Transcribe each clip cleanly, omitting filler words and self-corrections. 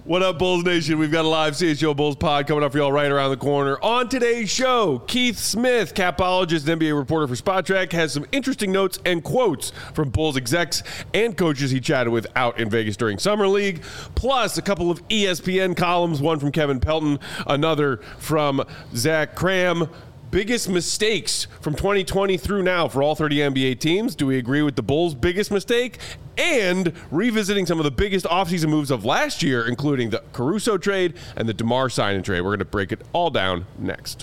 What up, Bulls Nation? We've got a live CHGO Bulls pod coming up for y'all right around the corner. On today's show, Keith Smith, capologist and NBA reporter for Spotrac, has some interesting notes and quotes from Bulls execs and coaches he chatted with out in Vegas during Summer League, plus a couple of ESPN columns, one from Kevin Pelton, another from Zach Cram. Biggest mistakes from 2020 through now for all 30 NBA teams. Do we agree with the Bulls' biggest mistake? And revisiting some of the biggest offseason moves of last year, including the Caruso trade and the DeMar signing trade. We're going to break it all down next.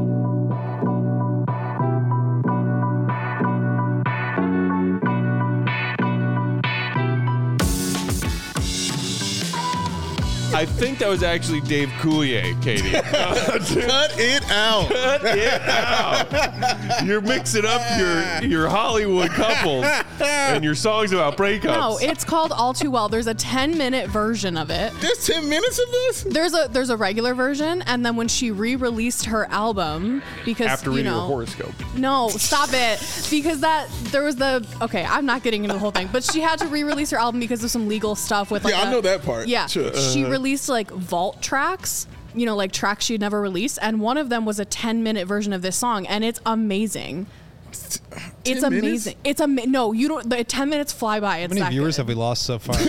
I think that was actually Dave Coulier, Katie. Cut it out. Cut it out. You're mixing up your Hollywood couples and your songs about breakups. No, it's called All Too Well. There's a 10-minute version of it. There's 10 minutes of this? There's a regular version, and then when she re-released her album, because after reading her horoscope. No, stop it. Because I'm not getting into the whole thing, but she had to re-release her album because of some legal stuff with I know that part. Yeah. Sure. She released like vault tracks, like tracks she'd never released, and one of them was a 10-minute version of this song, and it's amazing. It's amazing. It's no, you don't. The 10 minutes fly by. It's how many viewers have we lost so far?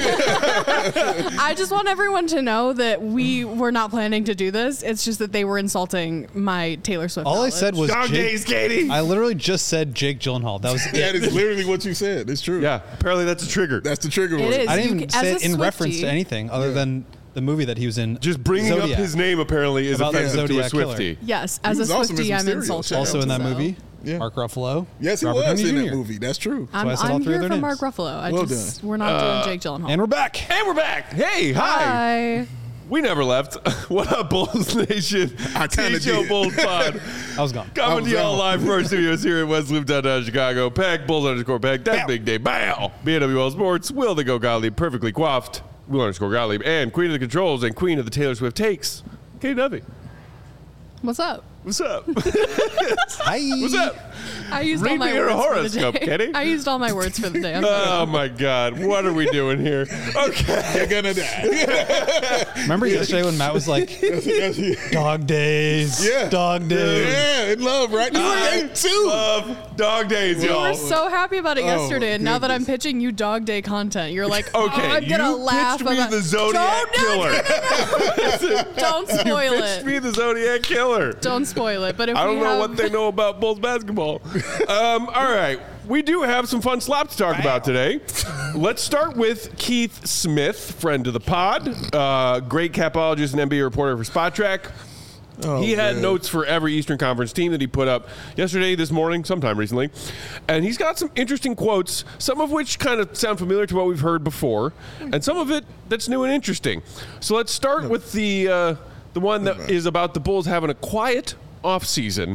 I just want everyone to know that we were not planning to do this. It's just that they were insulting my Taylor Swift. All knowledge. I said was Dog days, Katie. I literally just said Jake Gyllenhaal. That was it. That is literally what you said. It's true. Yeah, apparently that's a trigger. That's the trigger It word. is. I didn't even say it in Swiftie, reference to anything other than the movie that he was in. Just bringing Zodiac. up his name apparently is About the offensive to a Zodiac killer. Swiftie. Yes, as a was also in Swiftie, some I'm stereo. insulted. Shout Also in that So, movie, Yeah. Mark Ruffalo. Yes, he Robert was Downey in that Jr. movie. That's true. why I said all I'm three of here their for Mark names. Ruffalo. We're not doing Jake Gyllenhaal. And we're back. And we're back. Hey, hi. Hi. We never left. What up, Bulls Nation? I kinda CHGO did. Bulls pod. I was gone. Coming to y'all out. live from our studios here in West Loop, downtown Chicago. Peck, Bulls_Peck. That Bow. big day. Bow. BWL Sports. Will the Go Gottlieb. Perfectly coiffed. Will_Gottlieb. And Queen of the Controls and Queen of the Taylor Swift Takes. Katie Duffy. What's up? What's up? Hi. What's up? I used Read all my me your words horoscope, for the day. Kenny. I used all my words for the day. I'm Oh, my God. What are we doing here? Okay. You're gonna die. Remember yesterday when Matt was like, dog days. Yeah. Dog days. Yeah, in love, right? You were eight too. Love dog days, You y'all. were so happy about it yesterday, and now that I'm goodness. pitching you dog day content, you're like, Okay, I'm gonna you laugh pitched me about the Zodiac Killer. Don't spoil Pitched me it. the Zodiac Killer. Don't spoil it. But if I we don't know have, what they know about Bulls basketball. All right. We do have some fun slop to talk about today. Let's start with Keith Smith, friend of the pod, great capologist and NBA reporter for Spotrac. He had notes for every Eastern Conference team that he put up yesterday, this morning, sometime recently. And he's got some interesting quotes, some of which kind of sound familiar to what we've heard before, and some of it that's new and interesting. So let's start with the one that is about the Bulls having a quiet offseason.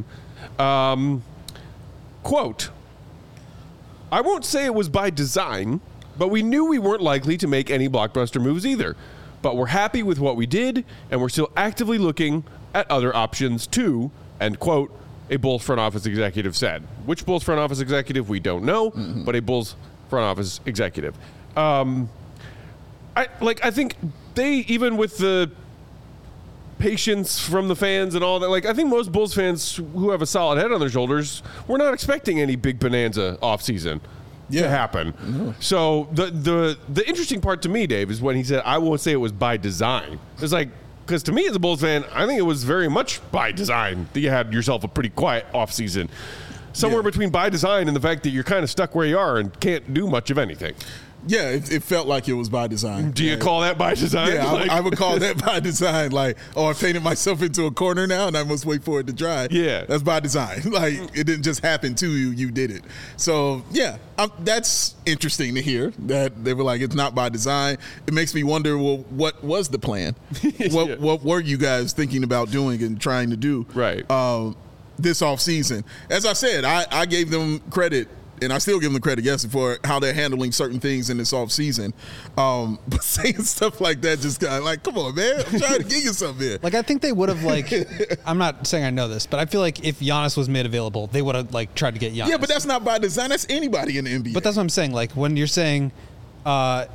Quote, I won't say it was by design, but we knew we weren't likely to make any blockbuster moves either. But we're happy with what we did, and we're still actively looking at other options too, end quote, a Bulls front office executive said. Which Bulls front office executive, we don't know, but a Bulls front office executive. I think they, even with the patience from the fans and all that, I think most Bulls fans who have a solid head on their shoulders, we're not expecting any big bonanza offseason to happen. No. So the interesting part to me, Dave, is when he said, I won't say it was by design. It's like, because to me as a Bulls fan, I think it was very much by design that you had yourself a pretty quiet offseason. Somewhere between by design and the fact that you're kind of stuck where you are and can't do much of anything. Yeah, it felt like it was by design. Do you call that by design? Yeah, I would call that by design. Like, I painted myself into a corner now and I must wait for it to dry. Yeah. That's by design. Like, it didn't just happen to you, you did it. So, yeah, that's interesting to hear that they were like, it's not by design. It makes me wonder, well, what was the plan? What were you guys thinking about doing and trying to do this offseason? As I said, I gave them credit, and I still give them credit, yes, for how they're handling certain things in this offseason. But saying stuff like that just kind of like, come on, man. I'm trying to get you something here. I think they would have, I'm not saying I know this, but I feel like if Giannis was made available, they would have, tried to get Giannis. Yeah, but that's not by design. That's anybody in the NBA. But that's what I'm saying. When you're saying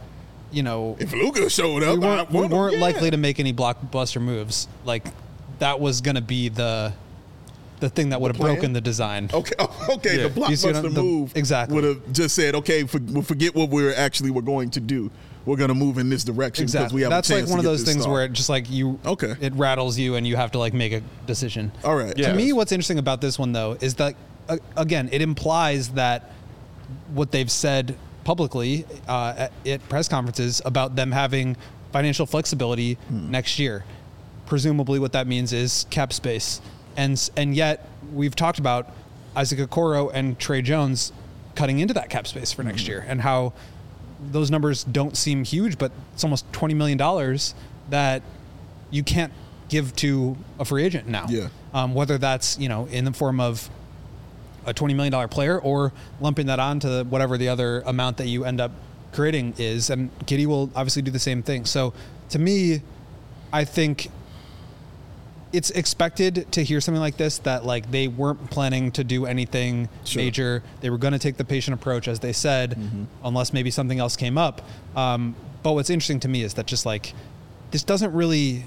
if Luka showed up, we weren't likely to make any blockbuster moves. Like that was going to be the thing that would have broken the design. Okay. Yeah. The blockbuster move exactly would have just said, okay, we'll forget what we're going to do. We're going to move in this direction because we have That's a chance like one of those things start. where it just like it rattles you and you have to like make a decision. All right. To me, what's interesting about this one though is that again, it implies that what they've said publicly at press conferences about them having financial flexibility next year. Presumably, what that means is cap space, and yet we've talked about Isaac Okoro and Trey Jones cutting into that cap space for next year, and how those numbers don't seem huge, but it's almost $20 million that you can't give to a free agent now. Yeah. Whether that's in the form of a $20 million player or lumping that on to whatever the other amount that you end up creating is. And Giddey will obviously do the same thing. So to me, I think it's expected to hear something like this, that like they weren't planning to do anything major. They were going to take the patient approach, as they said, unless maybe something else came up. But what's interesting to me is that just like, this doesn't really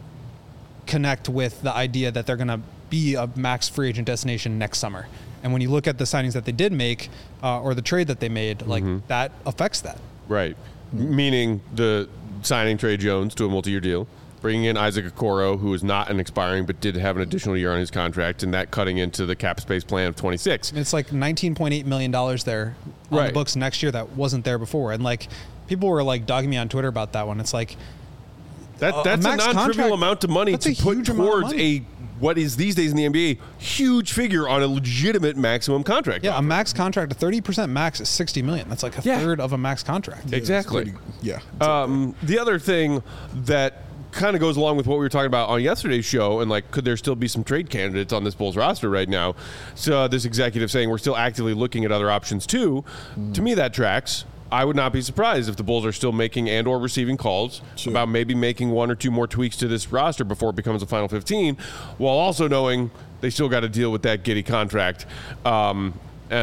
connect with the idea that they're going to be a max free agent destination next summer. And when you look at the signings that they did make, or the trade that they made, like that affects that. Right. Meaning the signing Trey Jones to a multi-year deal, bringing in Isaac Okoro, who is not an expiring but did have an additional year on his contract, and that cutting into the cap space plan of 26. It's like $19.8 million there on the books next year that wasn't there before. And like people were like dogging me on Twitter about that one. It's like that's a non-trivial amount of money to put towards what is these days in the NBA huge figure on a legitimate maximum contract. Yeah, a max contract, a 30% max is $60 million. That's like a third of a max contract. Exactly. Exactly. The other thing that kind of goes along with what we were talking about on yesterday's show, and like, could there still be some trade candidates on this Bulls roster right now? So this executive saying we're still actively looking at other options too. To me, that tracks. I would not be surprised if the Bulls are still making and or receiving calls about maybe making one or two more tweaks to this roster before it becomes a final 15, while also knowing they still got to deal with that Giddey contract. Not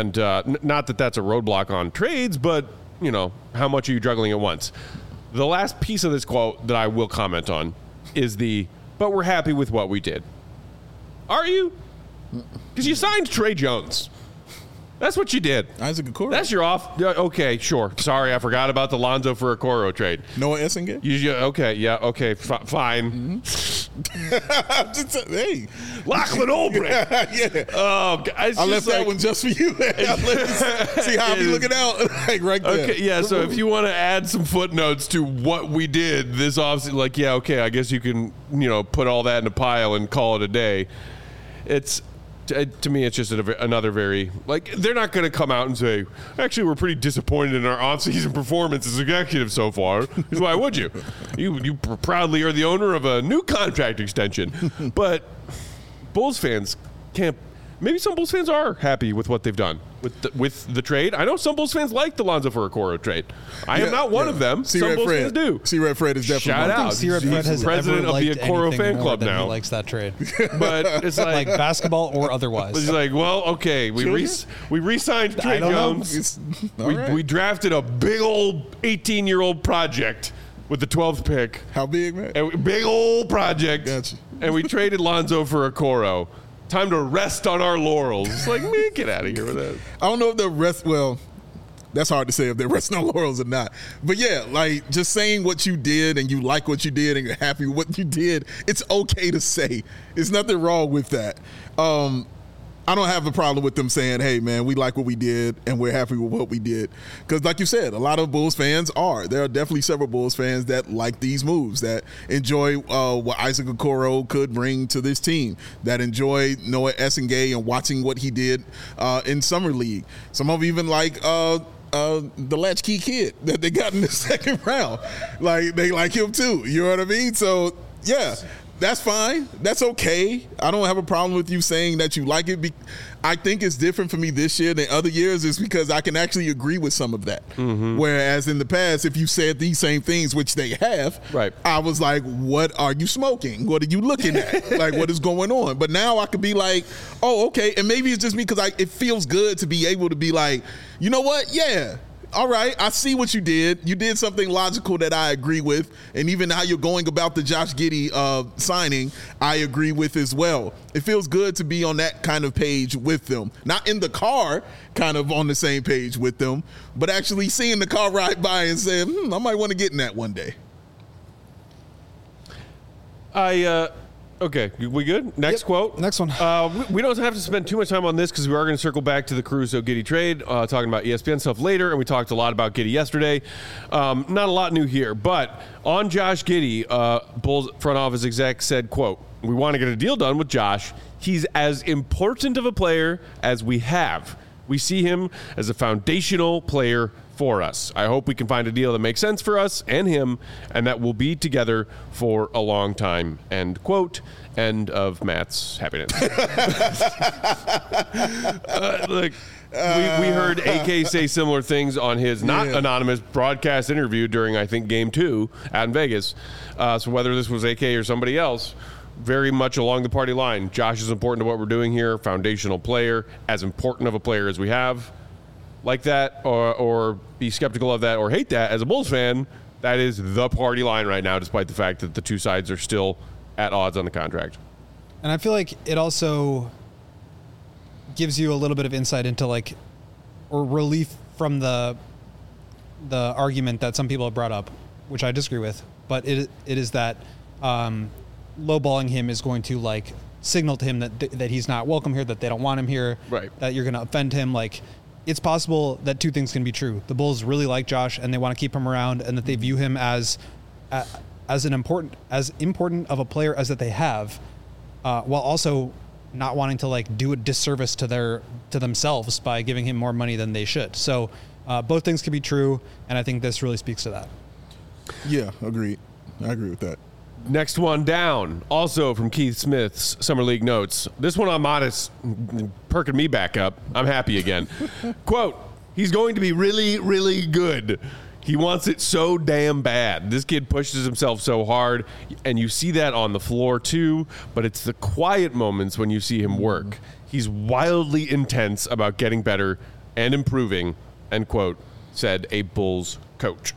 that that's a roadblock on trades, but, how much are you juggling at once? The last piece of this quote that I will comment on is but we're happy with what we did. Are you? Because you signed Trey Jones. That's what you did. Isaac Okoro. That's your off. Okay, sure. Sorry, I forgot about the Lonzo for Okoro trade. Noah Essengate? Okay, fine. Hey. Lachlan Olbrich. Oh, I left that one just for you. See how I'm looking out right there. Okay, yeah, so if you want to add some footnotes to what we did this offseason, I guess you can, put all that in a pile and call it a day. To me, it's just another very, they're not going to come out and say, actually, we're pretty disappointed in our offseason performance as executives so far. Because why would you? You proudly are the owner of a new contract extension. But Bulls fans can't. Maybe some Bulls fans are happy with what they've done with the trade. I know some Bulls fans like the Lonzo for Okoro trade. I am not one of them. Some Bulls fans do. C-Red Fred is definitely shout out. C-Red Fred has president of the Okoro fan club now. He likes that trade, but it's like basketball or otherwise. It's like, well, okay, we re-signed Trey Jones. We drafted a big old 18-year-old project with the 12th pick. How big, man? Big old project. Gotcha. And we traded Lonzo for Okoro. Time to rest on our laurels. It's like, man, get out of here with that. I don't know if they're that's hard to say if they're resting on laurels or not. But yeah, just saying what you did and you like what you did and you're happy with what you did, it's okay to say. There's nothing wrong with that. I don't have a problem with them saying, hey, man, we like what we did and we're happy with what we did. Because like you said, a lot of Bulls fans are. There are definitely several Bulls fans that like these moves, that enjoy what Isaac Okoro could bring to this team, that enjoy Noah Essengate and watching what he did in Summer League. Some of even like the latchkey kid that they got in the second round. They like him too. You know what I mean? So, yeah. That's fine. That's okay. I don't have a problem with you saying that you like it. I think it's different for me this year than other years is because I can actually agree with some of that. Mm-hmm. Whereas in the past, if you said these same things, which they have, right, I was like, what are you smoking? What are you looking at? What is going on? But now I could be like, oh, okay. And maybe it's just me because it feels good to be able to be like, you know what? Yeah. all right, I see what you did. You did something logical that I agree with. And even how you're going about the Josh Giddey signing, I agree with as well. It feels good to be on that kind of page with them. Not in the car, kind of on the same page with them, but actually seeing the car ride by and saying, I might want to get in that one day. Okay, we good? Next quote. Next one. We don't have to spend too much time on this because we are going to circle back to the Caruso Giddey trade, talking about ESPN stuff later, and we talked a lot about Giddey yesterday. Not a lot new here, but on Josh Giddey, Bulls front office exec said, quote, "We want to get a deal done with Josh. He's as important of a player as we have. We see him as a foundational player for us. I hope we can find a deal that makes sense for us and him, and that we'll be together for a long time." End quote. End of Matt's happiness. We heard AK say similar things on his anonymous broadcast interview during, I think, Game 2 out in Vegas. So whether this was AK or somebody else, very much along the party line. Josh is important to what we're doing here. Foundational player, as important of a player as we have. Like that, or be skeptical of that, or hate that as a Bulls fan, that is the party line right now, despite the fact that the two sides are still at odds on the contract. And I feel like it also gives you a little bit of insight into or relief from the argument that some people have brought up, which I disagree with, but it is that lowballing him is going to signal to him that he's not welcome here, that they don't want him here, right? That you're going to offend him. It's possible that two things can be true. The Bulls really like Josh and they want to keep him around, and that they view him as important of a player as that they have, while also not wanting to do a disservice to themselves by giving him more money than they should. So both things can be true, and I think this really speaks to that. Yeah, agreed. I agree with that. Next one down, also from Keith Smith's Summer League notes. This one on Modest, perking me back up. I'm happy again. Quote, "He's going to be really, really good. He wants it so damn bad. This kid pushes himself so hard, and you see that on the floor too, but it's the quiet moments when you see him work. He's wildly intense about getting better and improving," end quote, said a Bulls coach.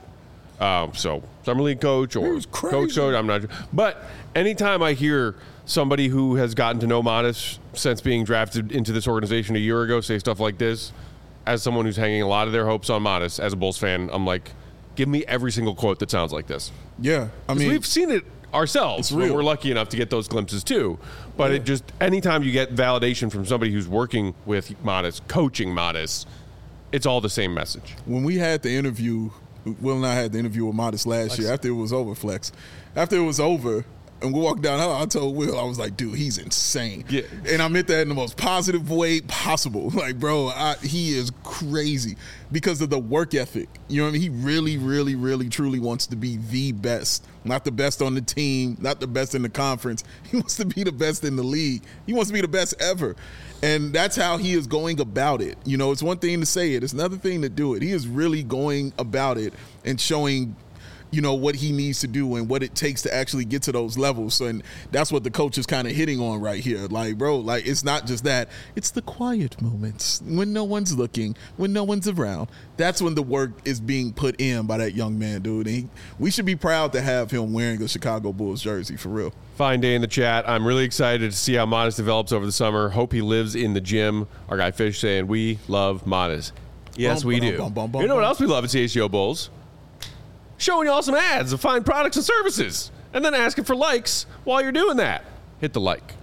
So Summer League coach or coach, I'm not sure. But anytime I hear somebody who has gotten to know Modest since being drafted into this organization a year ago say stuff like this, as someone who's hanging a lot of their hopes on Modest, as a Bulls fan, I'm like, give me every single quote that sounds like this. Yeah, I mean, we've seen it ourselves. We're lucky enough to get those glimpses too. But it just, anytime you get validation from somebody who's working with Modest, coaching Modest, it's all the same message. When we had the interview, Will and I had the interview with Modest last year after it was over, Flex. After it was over, and we walked down, I told Will, I was like, dude, he's insane. Yeah. And I meant that in the most positive way possible. Bro, he is crazy because of the work ethic. You know what I mean? He really, really, really, truly wants to be the best. Not the best on the team, not the best in the conference. He wants to be the best in the league. He wants to be the best ever. And that's how he is going about it. It's one thing to say it. It's another thing to do it. He is really going about it and showing what he needs to do and what it takes to actually get to those levels. So, and that's what the coach is kind of hitting on right here. It's not just that. It's the quiet moments when no one's looking, when no one's around. That's when the work is being put in by that young man, dude. And we should be proud to have him wearing a Chicago Bulls jersey, for real. Fine day in the chat. I'm really excited to see how Modest develops over the summer. Hope he lives in the gym. Our guy Fish saying, we love Modest. Yes, we do. You know what else we love at CHGO Bulls? Showing you all some ads of fine products and services, and then asking for likes while you're doing that. Hit the like.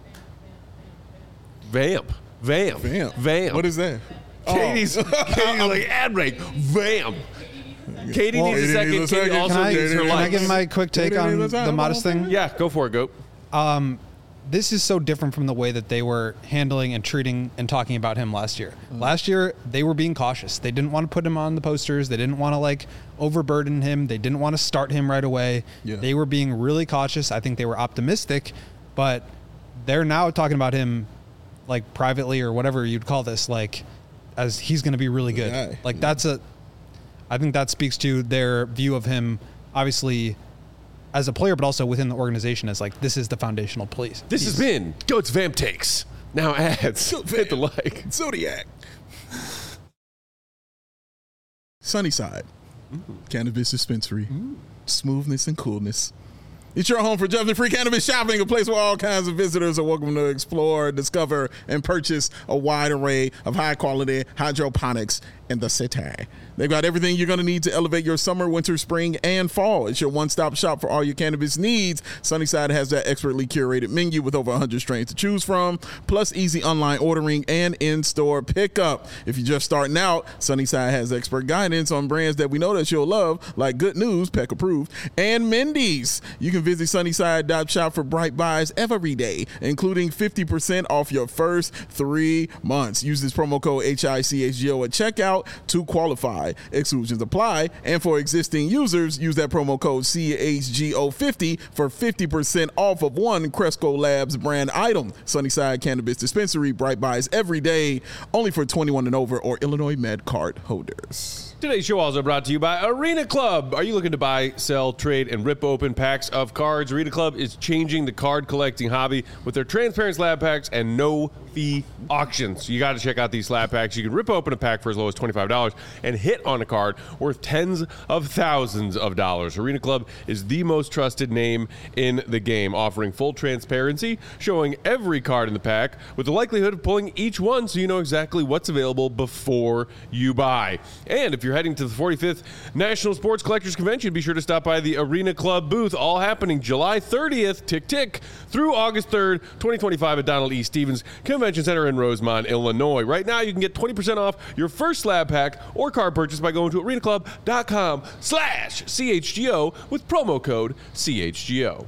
Vamp. What is that? Katie's like ad break. Vamp. Katie needs a second. Katie also needs her likes. Can I give my quick take on the Modest thing? Yeah, go for it, Goat. This is so different from the way that they were handling and treating and talking about him last year. Last year, they were being cautious. They didn't want to put him on the posters. They didn't want to overburden him. They didn't want to start him right away. Yeah. They were being really cautious. I think they were optimistic, but they're now talking about him privately or whatever you'd call this, as he's going to be really good. Yeah. I think that speaks to their view of him, obviously, as a player, but also within the organization as this is the foundational piece. This has been Goat's Vamp Takes. Now ads. Hit the like. Zodiac. Sunnyside, cannabis dispensary, smoothness and coolness. It's your home for judgment-free cannabis shopping, a place where all kinds of visitors are welcome to explore, discover, and purchase a wide array of high-quality hydroponics in the city. They've got everything you're going to need to elevate your summer, winter, spring, and fall. It's your one-stop shop for all your cannabis needs. Sunnyside has that expertly curated menu with over 100 strains to choose from, plus easy online ordering and in-store pickup. If you're just starting out, Sunnyside has expert guidance on brands that we know that you'll love, like Good News, Peck Approved, and Mindy's. You can visit Sunnyside.shop for bright buys every day, including 50% off your first 3 months. Use this promo code HICHGO at checkout to qualify. Exclusions apply, and for existing users, use that promo code CHGO50 for 50% off of one Cresco Labs brand item. Sunnyside Cannabis Dispensary, bright buys every day, only for 21 and over or Illinois Med card holders. Today's show also brought to you by Arena Club. Are you looking to buy, sell, trade, and rip open packs of cards? Arena Club is changing the card collecting hobby with their transparent slab packs and no-fee auctions. You got to check out these slab packs. You can rip open a pack for as low as $25 and hit on a card worth tens of thousands of dollars. Arena Club is the most trusted name in the game, offering full transparency, showing every card in the pack with the likelihood of pulling each one so you know exactly what's available before you buy. And if you're heading to the 45th National Sports Collectors Convention, be sure to stop by the Arena Club booth, all happening July 30th, tick, through August 3rd, 2025 at Donald E. Stevens Convention Center in Rosemont, Illinois. Right now, you can get 20% off your first slab pack or card purchase by going to arenaclub.com/CHGO with promo code CHGO.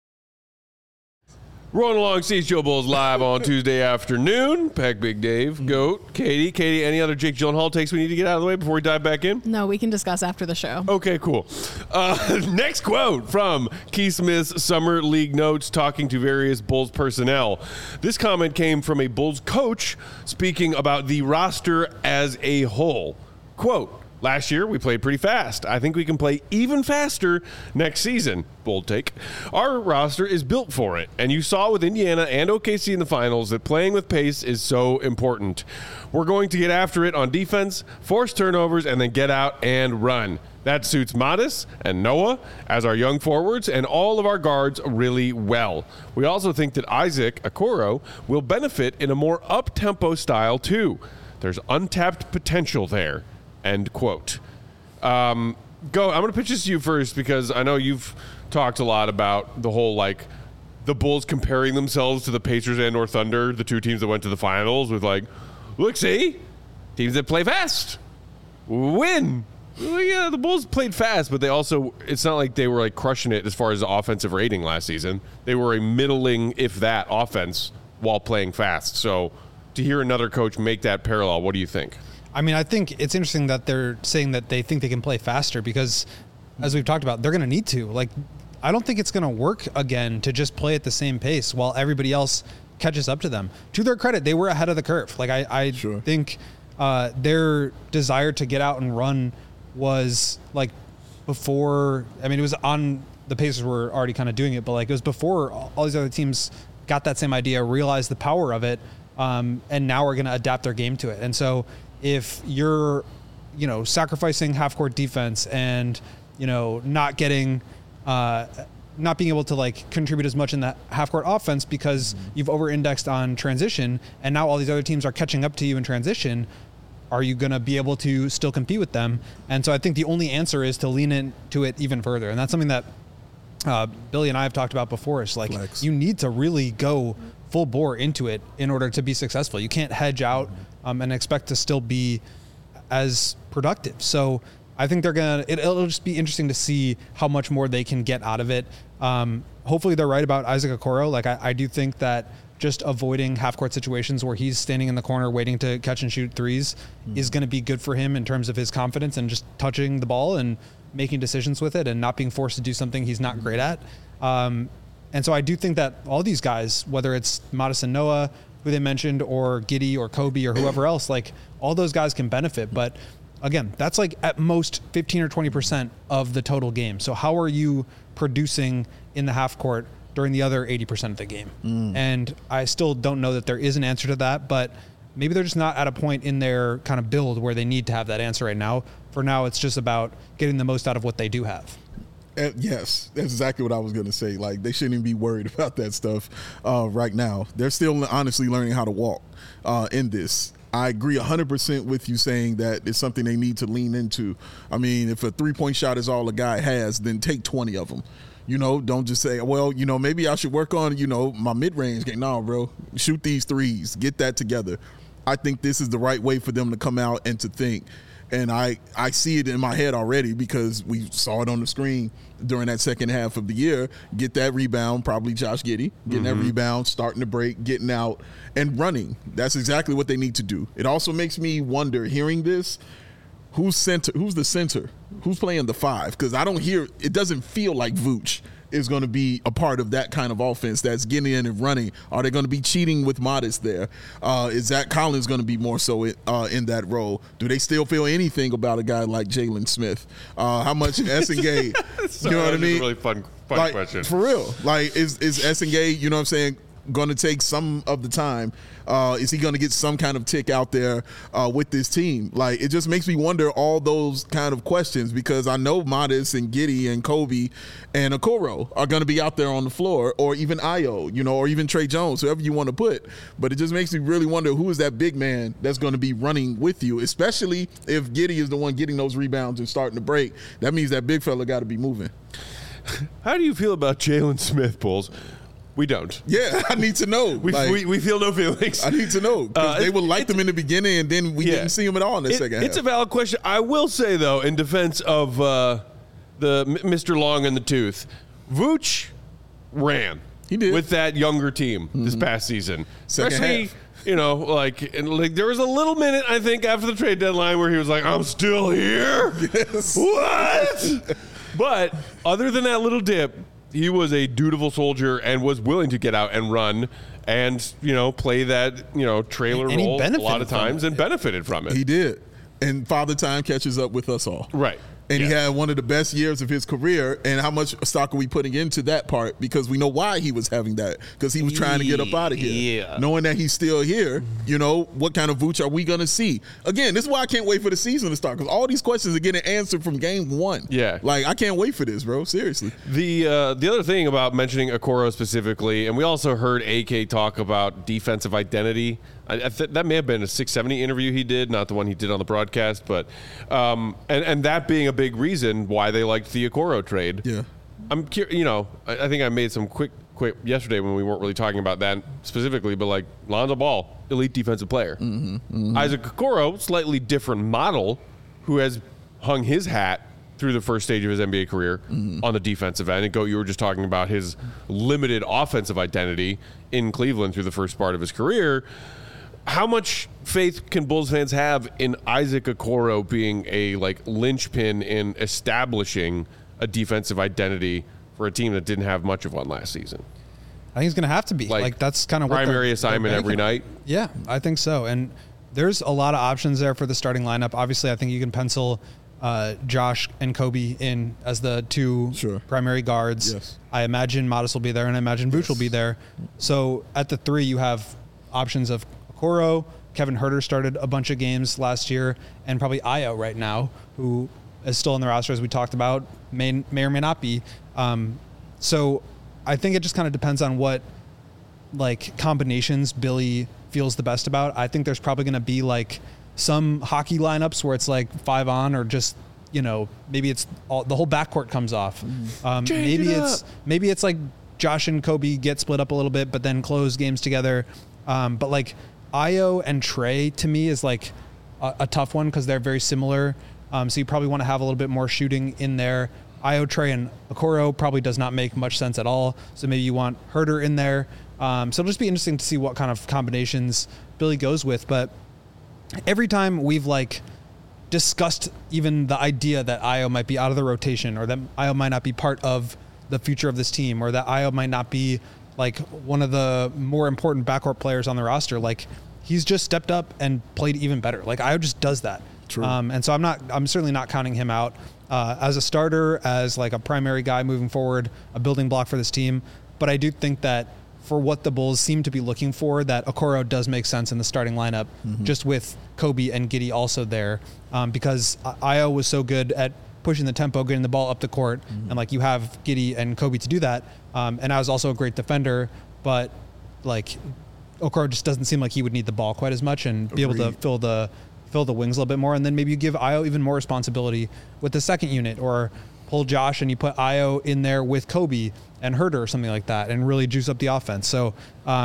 Rolling along CHGO Bulls live on Tuesday afternoon. Peck, Big Dave, Goat, Katie, any other Jake Gyllenhaal takes we need to get out of the way before we dive back in? No, we can discuss after the show. Okay, cool. Next quote from Keith Smith's Summer League Notes talking to various Bulls personnel. This comment came from a Bulls coach speaking about the roster as a whole. Quote, "Last year, we played pretty fast. I think we can play even faster next season." Bold take. "Our roster is built for it, and you saw with Indiana and OKC in the finals that playing with pace is so important. We're going to get after it on defense, force turnovers, and then get out and run. That suits Modis and Noah as our young forwards and all of our guards really well. We also think that Isaac Okoro will benefit in a more up-tempo style too. There's untapped potential there." End quote. Go. I'm going to pitch this to you first because I know you've talked a lot about the whole, like, the Bulls comparing themselves to the Pacers and or Thunder, the two teams that went to the finals, with like, look, see, teams that play fast win. Well, yeah, the Bulls played fast, but they also, it's not like they were like crushing it as far as the offensive rating last season. They were a middling, if that, offense while playing fast. So to hear another coach make that parallel, what do you think? I mean, I think it's interesting that they're saying that they think they can play faster because, as we've talked about, they're going to need to. Like, I don't think it's going to work again to just play at the same pace while everybody else catches up to them. To their credit, they were ahead of the curve. Like, I think their desire to get out and run was, like, before. I mean, it was on the Pacers were already kind of doing it, but, like, it was before all these other teams got that same idea, realized the power of it, and now are going to adapt their game to it. And so if you're, sacrificing half-court defense and, not getting, not being able to, like, contribute as much in the half-court offense because you've over-indexed on transition, and now all these other teams are catching up to you in transition, are you going to be able to still compete with them? And so I think the only answer is to lean into it even further. And that's something that Billy and I have talked about before. It's like, you need to really go full bore into it in order to be successful. You can't hedge out and expect to still be as productive. So I think it'll just be interesting to see how much more they can get out of it. Hopefully they're right about Isaac Okoro. Like, I do think that just avoiding half-court situations where he's standing in the corner waiting to catch and shoot threes is going to be good for him in terms of his confidence and just touching the ball and making decisions with it and not being forced to do something he's not great at. And so I do think that all these guys, whether it's Modis and Noah, who they mentioned, or Giddey or Kobe or whoever else, like, all those guys can benefit. But again, that's like at most 15 or 20% of the total game. So how are you producing in the half court during the other 80% of the game? And I still don't know that there is an answer to that, but maybe they're just not at a point in their kind of build where they need to have that answer right now. For now, it's just about getting the most out of what they do have. Yes, that's exactly what I was going to say. Like, they shouldn't even be worried about that stuff right now. They're still honestly learning how to walk in this. I agree 100% with you saying that it's something they need to lean into. I mean, if a three-point shot is all a guy has, then take 20 of them. You know, don't just say, well, you know, maybe I should work on, you know, my mid-range game. No, bro, shoot these threes. Get that together. I think this is the right way for them to come out and to think. And I see it in my head already because we saw it on the screen during that second half of the year. Get that rebound, probably Josh Giddey, getting that rebound, starting to break, getting out, and running. That's exactly what they need to do. It also makes me wonder, hearing this, who's the center? Who's playing the 5? Because I don't hear – it doesn't feel like Vooch is going to be a part of that kind of offense that's getting in and running. Are they going to be cheating with Modest there? Is Zach Collins going to be more so in that role? Do they still feel anything about a guy like Jalen Smith? How much Essengay, you know what I mean? Really fun like, question. For real. Like, is Essengay, you know what I'm saying, going to take some of the time? Is he going to get some kind of tick out there with this team? Like, it just makes me wonder all those kind of questions because I know Modest and Giddey and Kobe and Okoro are going to be out there on the floor, or even Ayo, you know, or even Trey Jones, whoever you want to put. But it just makes me really wonder who is that big man that's going to be running with you, especially if Giddey is the one getting those rebounds and starting to break. That means that big fella got to be moving. How do you feel about Jalen Smith, Bulls? We don't. Yeah, I need to know. We feel no feelings. I need to know. They would like them in the beginning, and then we didn't see them at all in the second half. It's a valid question. I will say, though, in defense of the Mr. Long and the Tooth, Vooch ran. He did. With that younger team this past season. Second Especially, half. you know, like there was a little minute, I think, after the trade deadline where he was like, I'm still here? Yes. What? But other than that little dip, he was a dutiful soldier and was willing to get out and run and, you know, play that, you know, trailer role a lot of times and benefited from it. He did. And Father Time catches up with us all. Right. And he had one of the best years of his career. And how much stock are we putting into that part? Because we know why he was having that. Because he was trying to get up out of here. Yeah. Knowing that he's still here, you know, what kind of Vooch are we going to see? Again, this is why I can't wait for the season to start. Because all these questions are getting answered from game one. Yeah. Like, I can't wait for this, bro. Seriously. The other thing about mentioning Okoro specifically, and we also heard AK talk about defensive identity. That may have been a 670 interview he did, not the one he did on the broadcast, but and that being a big reason why they liked the Okoro trade. Yeah, I'm curious. You know, I think I made some quick yesterday when we weren't really talking about that specifically, but like Lonzo Ball, elite defensive player. Isaac Okoro, slightly different model, who has hung his hat through the first stage of his NBA career on the defensive end. And you were just talking about his limited offensive identity in Cleveland through the first part of his career. How much faith can Bulls fans have in Isaac Okoro being a linchpin in establishing a defensive identity for a team that didn't have much of one last season? I think he's going to have to be. Like that's kind of what primary assignment every night. Yeah, I think so. And there's a lot of options there for the starting lineup. Obviously, I think you can pencil Josh and Kobe in as the two primary guards. Yes. I imagine Modest will be there, and I imagine Vooch will be there. So at the 3, you have options of Okoro. Kevin Huerter started a bunch of games last year, and probably Ayo right now, who is still in the roster, as we talked about, may or may not be. So I think it just kind of depends on what combinations Billy feels the best about. I think there's probably going to be some hockey lineups where it's 5 on, or just, maybe it's the whole backcourt comes off. Maybe it's like Josh and Kobe get split up a little bit, but then close games together. But Ayo and Trey to me is a tough one because they're very similar. So you probably want to have a little bit more shooting in there. Ayo, Trey, and Okoro probably does not make much sense at all. So maybe you want Huerter in there. So it'll just be interesting to see what kind of combinations Billy goes with. But every time we've discussed even the idea that Ayo might be out of the rotation, or that Ayo might not be part of the future of this team, or that Ayo might not be one of the more important backcourt players on the roster, he's just stepped up and played even better. Ayo just does that. True. And so I'm certainly not counting him out as a starter, as a primary guy moving forward, a building block for this team. But I do think that for what the Bulls seem to be looking for, that Okoro does make sense in the starting lineup, just with Kobe and Giddey also there, because Ayo was so good at pushing the tempo, getting the ball up the court, and like you have Giddey and Kobe to do that. And I was also a great defender, but like Okoro just doesn't seem like he would need the ball quite as much and be able to fill the wings a little bit more. And then maybe you give Ayo even more responsibility with the second unit, or pull Josh and you put Ayo in there with Kobe and Herter or something like that, and really juice up the offense. So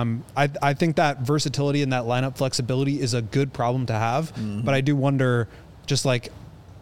I think that versatility and that lineup flexibility is a good problem to have. But I do wonder, just like,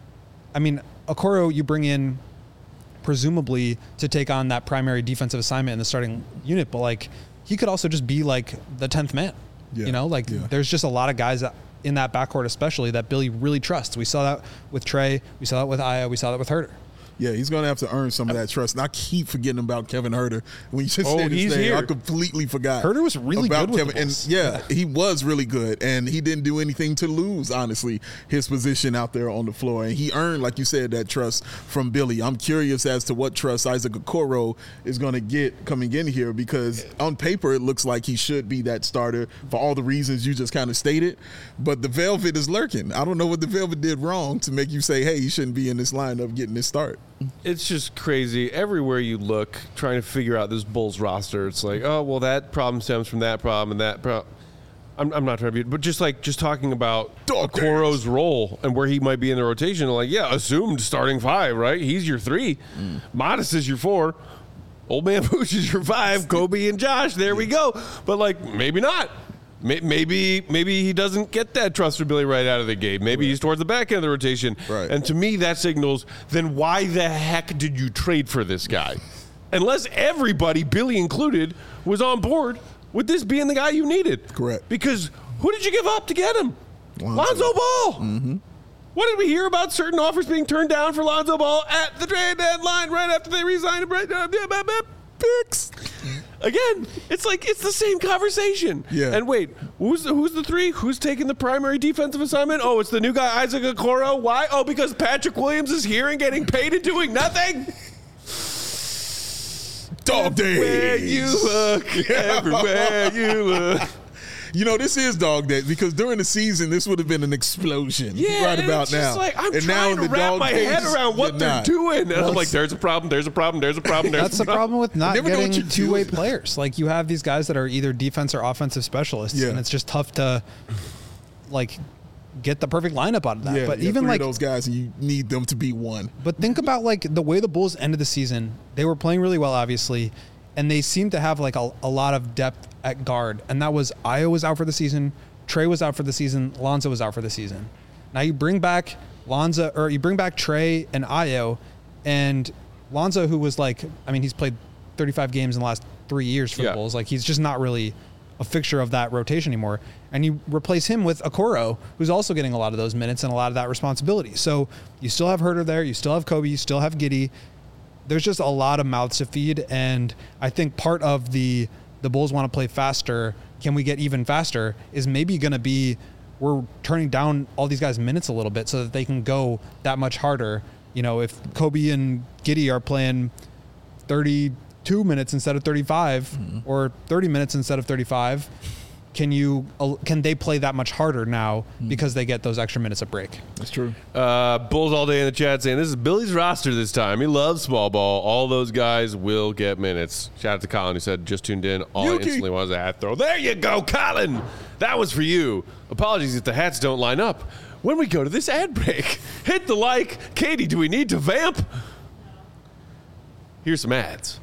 I mean, Okoro you bring in presumably to take on that primary defensive assignment in the starting unit, but like he could also just be like the 10th man. There's just a lot of guys in that backcourt especially that Billy really trusts. We saw that with Trey, we saw that with Ayo, we saw that with Herter. Yeah, he's going to have to earn some of that trust. And I keep forgetting about Kevin Herter. When you just said his name, here. I completely forgot. Herter was really about good Kevin. And he was really good. And he didn't do anything to lose, honestly, his position out there on the floor. And he earned, like you said, that trust from Billy. I'm curious as to what trust Isaac Okoro is going to get coming in here, because on paper it looks like he should be that starter for all the reasons you just kind of stated. But the Velvet is lurking. I don't know what the Velvet did wrong to make you say, hey, he shouldn't be in this lineup getting this start. It's just crazy. Everywhere you look, trying to figure out this Bulls roster, it's like, oh, well, that problem stems from that problem and that problem. I'm not trying to be, but just talking about Okoro's role and where he might be in the rotation, like, yeah, assumed starting 5, right? He's your 3. Modest is your 4. Old Man Vooch is your 5. Kobe and Josh, there we go. But, like, maybe not. Maybe he doesn't get that trust from Billy right out of the gate. Maybe he's towards the back end of the rotation. Right. And to me, that signals, then why the heck did you trade for this guy? Unless everybody, Billy included, was on board with this being the guy you needed. Correct. Because who did you give up to get him? Lonzo Ball. What did we hear about certain offers being turned down for Lonzo Ball at the trade deadline right after they resigned picks? Again, it's like it's the same conversation. Yeah. And wait, who's the 3? Who's taking the primary defensive assignment? Oh, it's the new guy, Isaac Okoro. Why? Oh, because Patrick Williams is here and getting paid and doing nothing? Dog days. Everywhere you look, everywhere you look. You know, this is dog days, because during the season, this would have been an explosion right about now. Like, I'm trying to wrap my head around what they're doing. And I'm like, there's a problem. That's the problem with not getting two-way players. Like, you have these guys that are either defense or offensive specialists, and it's just tough to, like, get the perfect lineup out of that. Yeah, but even like those guys, and you need them to be one. But think about like the way the Bulls ended the season. They were playing really well, obviously, and they seemed to have like a lot of depth at guard. And that was Ayo was out for the season, Trey was out for the season, Lonzo was out for the season. Now you bring back Trey and Ayo, and Lonzo, who was like, I mean, he's played 35 games in the last 3 years for the Bulls. Like, he's just not really a fixture of that rotation anymore. And you replace him with Okoro, who's also getting a lot of those minutes and a lot of that responsibility. So you still have Herter there, you still have Kobe, you still have Giddey. There's just a lot of mouths to feed, and I think part of the Bulls want to play faster, can we get even faster, is maybe going to be we're turning down all these guys' minutes a little bit so that they can go that much harder. You know, if Kobe and Giddey are playing 32 minutes instead of 35 or 30 minutes instead of 35, can they play that much harder now because they get those extra minutes of break? That's true. Bulls all day in the chat saying this is Billy's roster this time. He loves small ball. All those guys will get minutes. Shout out to Colin who said just tuned in. All I instantly was a hat throw. There you go, Colin. That was for you. Apologies if the hats don't line up. When we go to this ad break, hit the like. Katie, do we need to vamp? Here's some ads.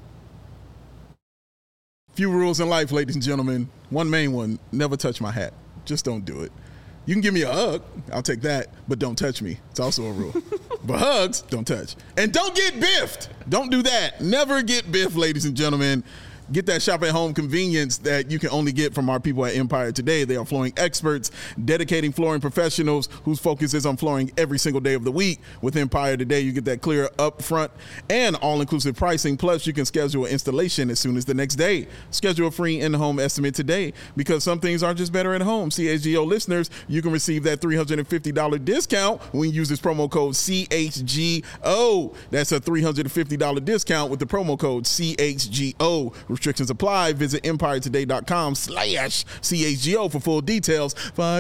Few rules in life, ladies and gentlemen. One main one, never touch my hat. Just don't do it. You can give me a hug. I'll take that, but don't touch me. It's also a rule. But hugs, don't touch. And don't get biffed. Don't do that. Never get biffed, ladies and gentlemen. Get that shop at home convenience that you can only get from our people at Empire Today. They are flooring experts, dedicating flooring professionals whose focus is on flooring every single day of the week. With Empire Today, you get that clear upfront and all-inclusive pricing. Plus, you can schedule an installation as soon as the next day. Schedule a free in-home estimate today, because some things are just better at home. CHGO listeners, you can receive that $350 discount when you use this promo code CHGO. That's a $350 discount with the promo code CHGO. Restrictions apply. Visit EmpireToday.com/CHGO for full details.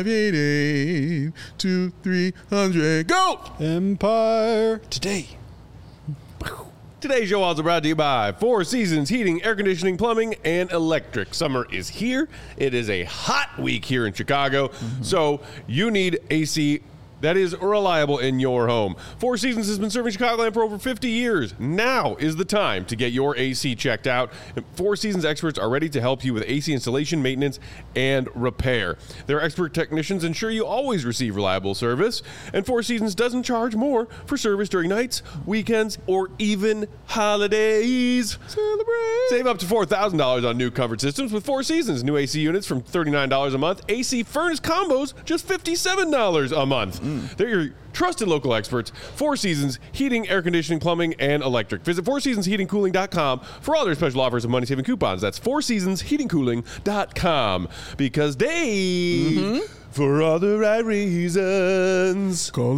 588-2300. Go! Empire Today. Today's show also brought to you by Four Seasons Heating, Air Conditioning, Plumbing, and Electric. Summer is here. It is a hot week here in Chicago, so you need AC that is reliable in your home. Four Seasons has been serving Chicagoland for over 50 years. Now is the time to get your AC checked out. And Four Seasons experts are ready to help you with AC installation, maintenance, and repair. Their expert technicians ensure you always receive reliable service. And Four Seasons doesn't charge more for service during nights, weekends, or even holidays. Celebrate! Save up to $4,000 on new comfort systems with Four Seasons. New AC units from $39 a month. AC furnace combos just $57 a month. They're your trusted local experts. Four Seasons Heating, Air Conditioning, Plumbing, and Electric. Visit FourSeasonsHeatingCooling.com for all their special offers and money-saving coupons. That's FourSeasonsHeatingCooling.com. Because they, for all the right reasons. Call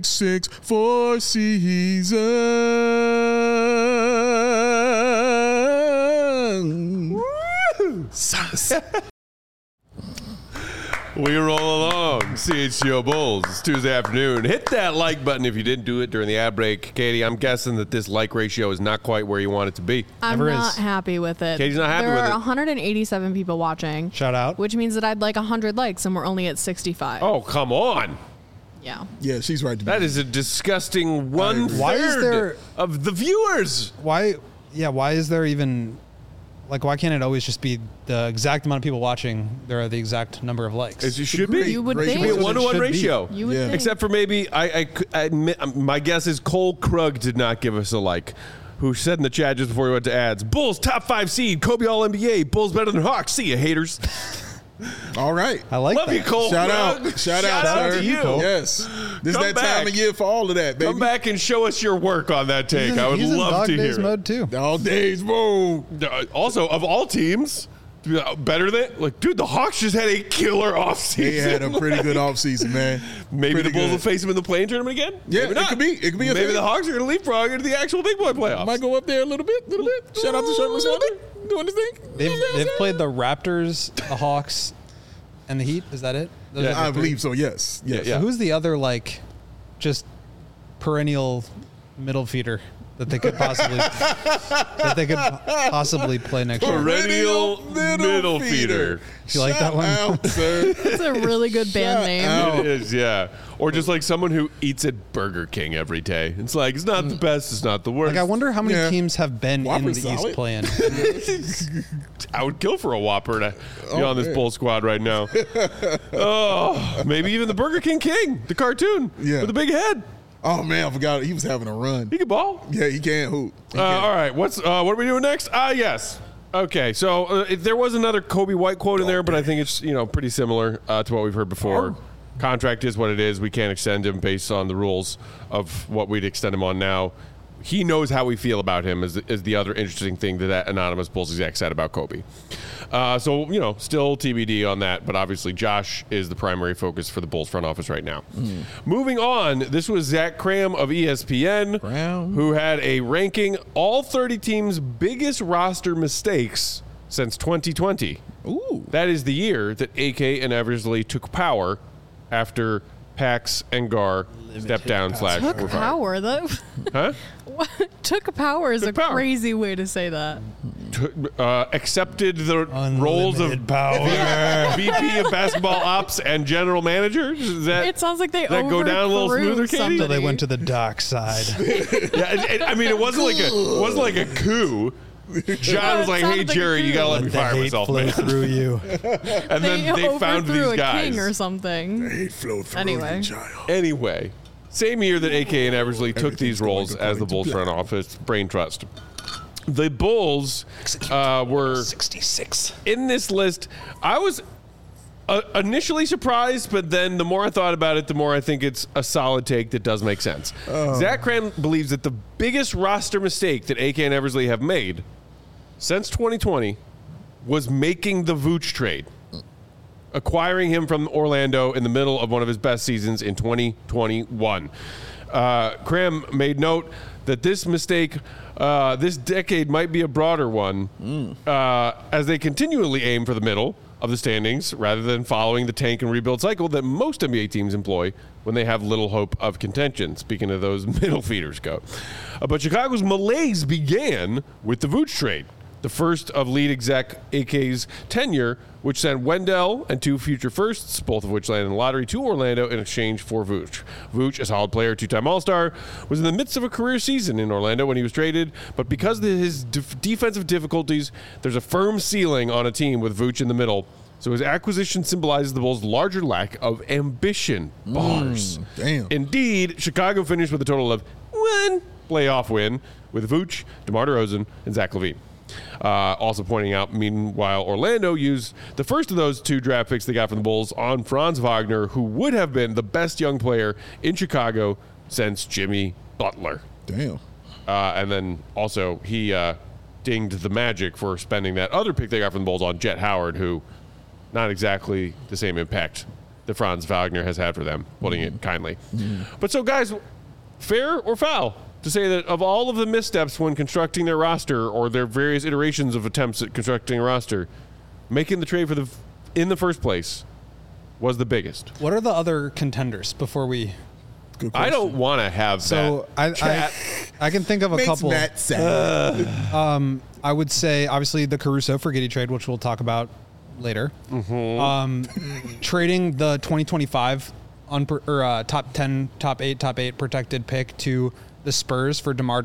866-4-Seasons. We roll along. CHGO Bulls. It's Tuesday afternoon. Hit that like button if you didn't do it during the ad break. Katie, I'm guessing that this like ratio is not quite where you want it to be. I'm not happy with it. Katie's not happy with it. There are 187 people watching. Shout out. Which means that I'd like 100 likes, and we're only at 65. Oh, come on. Yeah. Yeah, she's right. That is a disgusting Why is there of the viewers. Why is there even why can't it always just be the exact amount of people watching? There are the exact number of likes. It should be. You would It think. It should be a 1-to-1 ratio. You would think. Except for maybe I admit, my guess is Cole Krug did not give us a like. Who said in the chat just before we went to ads, Bulls top 5 seed, Kobe All-NBA, Bulls better than Hawks. See ya, haters. All right. I like Love that. you, Cole Shout Krug. out. Shout out, sir. to you. Yes. This Come is that back. time of year for all of that, baby. Come back and show us your work on that take. I would He's in love dog to days hear mode too. All days, boom. it. Also, of all teams, better than dude, the Hawks just had a killer offseason. They had a pretty good offseason, man. Maybe Pretty the Bulls good. will face him in the play-in tournament again. Yeah, Maybe not. it could be. It could be a Maybe thing. the Hawks are going to leapfrog into the actual big boy playoffs. Might go up there a little bit. Shout out to Shirtless Hunter doing his thing. They've played the Raptors, the Hawks, and the Heat. Is that it? Those Yeah, are the I three? believe so. Yes. Yes. Yeah. So who's the other just perennial middle feeder that they could possibly play next year? Perennial middle feeder. You like that one? Out, sir. It's a really good band name. out. It is, yeah. Or just like someone who eats at Burger King every day. It's like, it's not the best, it's not the worst. I wonder how many Yeah. teams have been Whopper's in the East solid. playing. I would kill for a Whopper to be on this man. Bull squad right now. Oh, maybe even the Burger King King, the cartoon Yeah. with the big head. Oh man, I forgot he was having a run. He can ball. Yeah, he can hoop. He can. All right, what are we doing next? Yes. Okay, so there was another Kobe White quote in there, but I think it's pretty similar to what we've heard before. Contract is what it is. We can't extend him based on the rules of what we'd extend him on now. He knows how we feel about him is the other interesting thing that anonymous Bulls exec said about Kobe. So, still TBD on that, but obviously Josh is the primary focus for the Bulls front office right now. Moving on, this was Zach Cram of ESPN, who had a ranking all 30 teams' biggest roster mistakes since 2020. Ooh. That is the year that AK and Eversley took power after Pax and Gar stepped down / Took were fired. power. That Huh? took power is Took a power. crazy way to say that. Accepted the roles of Unlimited power. VP of basketball ops and general manager. Does that, It sounds like they does that go down a little overthrew smoother, Katie? somebody. So they went to the dark side. Yeah, I mean, it wasn't like a coup. John was like, It "Hey, sounded like a Jerry, you gotta let coup. me The fire hate myself, flow man." through you. And then they found overthrew these a guys. king or something. He flowed through Anyway. the child. Anyway, same year that AK and Eversley took these roles as the Bulls front office brain trust. The Bulls were 66. in this list. I was initially surprised, but then the more I thought about it, the more I think it's a solid take that does make sense. Zach Cram believes that the biggest roster mistake that AK and Eversley have made since 2020 was making the Vooch trade, acquiring him from Orlando in the middle of one of his best seasons in 2021. Cram made note that this mistake, this decade might be a broader one, as they continually aim for the middle of the standings rather than following the tank and rebuild cycle that most NBA teams employ when they have little hope of contention. Speaking of those middle feeders go. But Chicago's malaise began with the Vooch trade, the first of lead exec AK's tenure, which sent Wendell and 2 future firsts, both of which landed in the lottery, to Orlando in exchange for Vooch. Vooch, a solid player, 2-time All-Star, was in the midst of a career season in Orlando when he was traded, but because of his defensive difficulties, there's a firm ceiling on a team with Vooch in the middle. So his acquisition symbolizes the Bulls' larger lack of ambition. Bars. Damn. Indeed, Chicago finished with a total of 1 playoff win with Vooch, DeMar DeRozan, and Zach LaVine. Also pointing out, meanwhile, Orlando used the first of those 2 draft picks they got from the Bulls on Franz Wagner, who would have been the best young player in Chicago since Jimmy Butler. Damn. And then also he dinged the Magic for spending that other pick they got from the Bulls on Jet Howard, who not exactly the same impact that Franz Wagner has had for them, putting it kindly. But so, guys, fair or foul to say that of all of the missteps when constructing their roster or their various iterations of attempts at constructing a roster, making the trade in the first place was the biggest? What are the other contenders before we... I don't want to have that. I can think of a Makes couple. Matt sad. I would say, obviously, the Caruso for Giddey trade, which we'll talk about later. Trading the 2025 top 10, top 8 protected pick to the Spurs for DeMar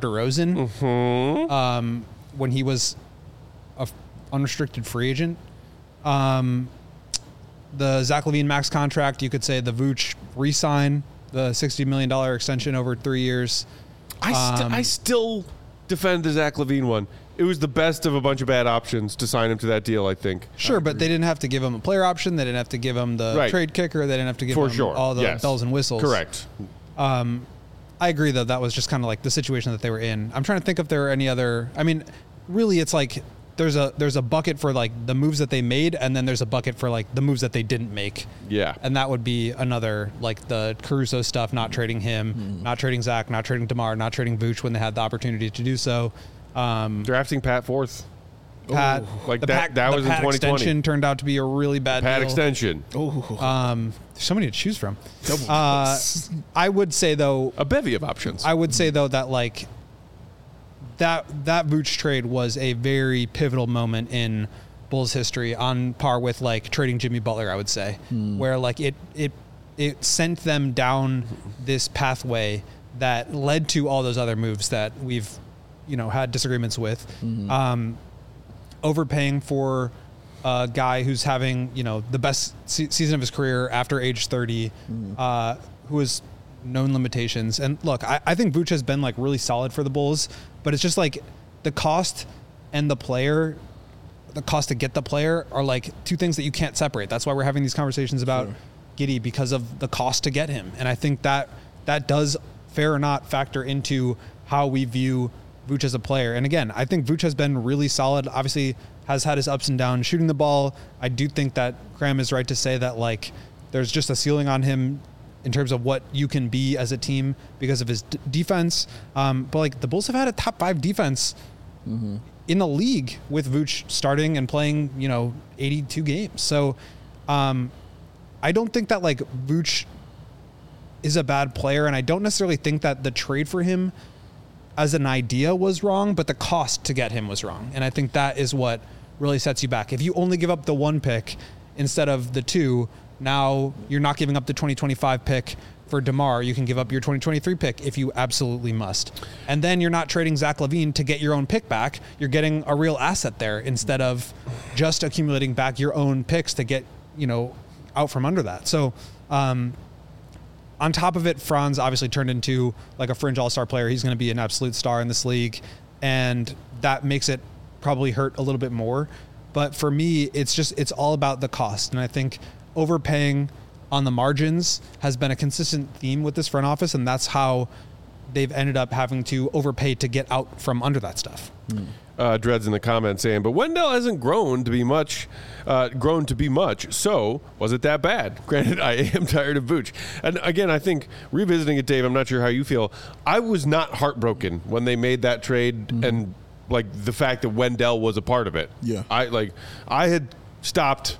DeRozan when he was an unrestricted free agent. The Zach LaVine max contract, you could say the Vooch re-sign, the $60 million extension over 3 years. I still defend the Zach LaVine one. It was the best of a bunch of bad options to sign him to that deal, I think. Sure, but they didn't have to give him a player option. They didn't have to give him the trade kicker. They didn't have to give him all the bells and whistles. Correct. I agree, though. That was just kind of like the situation that they were in. I'm trying to think if there are any other... I mean, really, it's like there's a bucket for like the moves that they made, and then there's a bucket for like the moves that they didn't make. Yeah. And that would be another, like the Caruso stuff, not trading him, not trading Zach, not trading DeMar, not trading Vooch when they had the opportunity to do so. Drafting Pat fourth. Pat, like that was in 2020. Extension turned out to be a really bad Pat deal. extension. There's so many to choose from. I would say, though, a bevy of options. I would say, though, that like that Vooch trade was a very pivotal moment in Bulls history, on par with like trading Jimmy Butler, I would say, where like it sent them down this pathway that led to all those other moves that we've had disagreements with. Overpaying for a guy who's having the best season of his career after age 30, who has known limitations. And look, I think Vooch has been like really solid for the Bulls, but it's just like the cost and the player, the cost to get the player are like two things that you can't separate. That's why we're having these conversations about Giddey, because of the cost to get him. And I think that does, fair or not, factor into how we view Vooch as a player. And again, I think Vooch has been really solid. Obviously has had his ups and downs shooting the ball. I do think that Graham is right to say that like there's just a ceiling on him in terms of what you can be as a team because of his defense. But like the Bulls have had a top 5 defense in the league with Vooch starting and playing, 82 games. So I don't think that like Vooch is a bad player, and I don't necessarily think that the trade for him as an idea was wrong, but the cost to get him was wrong. And I think that is what really sets you back. If you only give up the 1 pick instead of the 2, now you're not giving up the 2025 pick for DeMar. You can give up your 2023 pick if you absolutely must. And then you're not trading Zach LaVine to get your own pick back. You're getting a real asset there instead of just accumulating back your own picks to get, out from under that. So, on top of it, Franz obviously turned into like a fringe all-star player. He's going to be an absolute star in this league, and that makes it probably hurt a little bit more. But for me, it's all about the cost. And I think overpaying on the margins has been a consistent theme with this front office, and that's how they've ended up having to overpay to get out from under that stuff. Dreads in the comments saying, but Wendell hasn't grown to be much. So was it that bad? Granted, I am tired of Vooch. And again, I think revisiting it, Dave, I'm not sure how you feel. I was not heartbroken when they made that trade and like the fact that Wendell was a part of it. Yeah. I had stopped,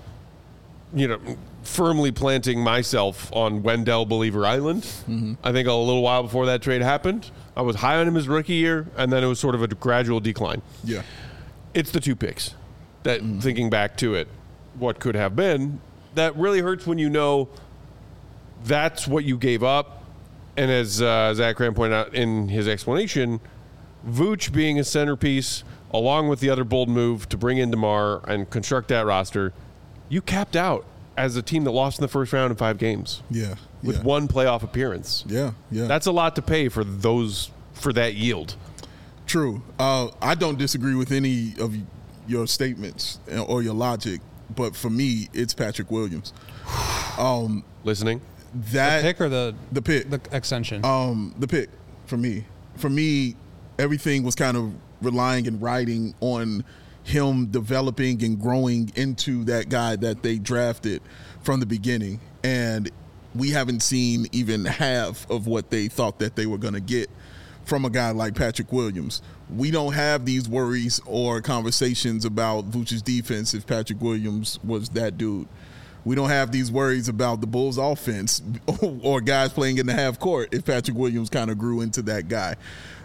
firmly planting myself on Wendell Believer Island. I think a little while before that trade happened. I was high on him his rookie year, and then it was sort of a gradual decline. Yeah. It's the 2 picks that, thinking back to it, what could have been, that really hurts when you know that's what you gave up. And as Zach Graham pointed out in his explanation, Vooch being a centerpiece, along with the other bold move to bring in DeMar and construct that roster, you capped out as a team that lost in the first round in 5 games. Yeah. With one playoff appearance. Yeah. That's a lot to pay for that yield. True. I don't disagree with any of your statements or your logic, but for me, it's Patrick Williams. Listening? That the pick or the pick? The extension. The pick for me. For me, everything was kind of relying and riding on him developing and growing into that guy that they drafted from the beginning. And we haven't seen even half of what they thought that they were going to get from a guy like Patrick Williams. We don't have these worries or conversations about Vooch's defense if Patrick Williams was that dude. We don't have these worries about the Bulls' offense or guys playing in the half court if Patrick Williams kind of grew into that guy.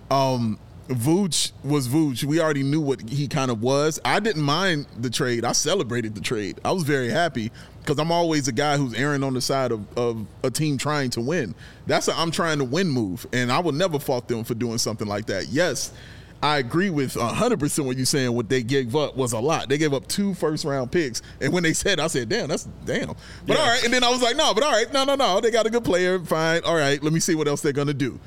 Vooch was Vooch. We already knew what he kind of was. I didn't mind the trade. I celebrated the trade. I was very happy because I'm always a guy who's erring on the side of a team trying to win. That's I'm trying to win move, and I would never fault them for doing something like that. Yes, I agree with 100% what you're saying. What they gave up was a lot. They gave up 2 first-round picks, and when they said, I said, damn, that's damn. But all right, and then I was like, no, they got a good player, fine. All right, let me see what else they're going to do.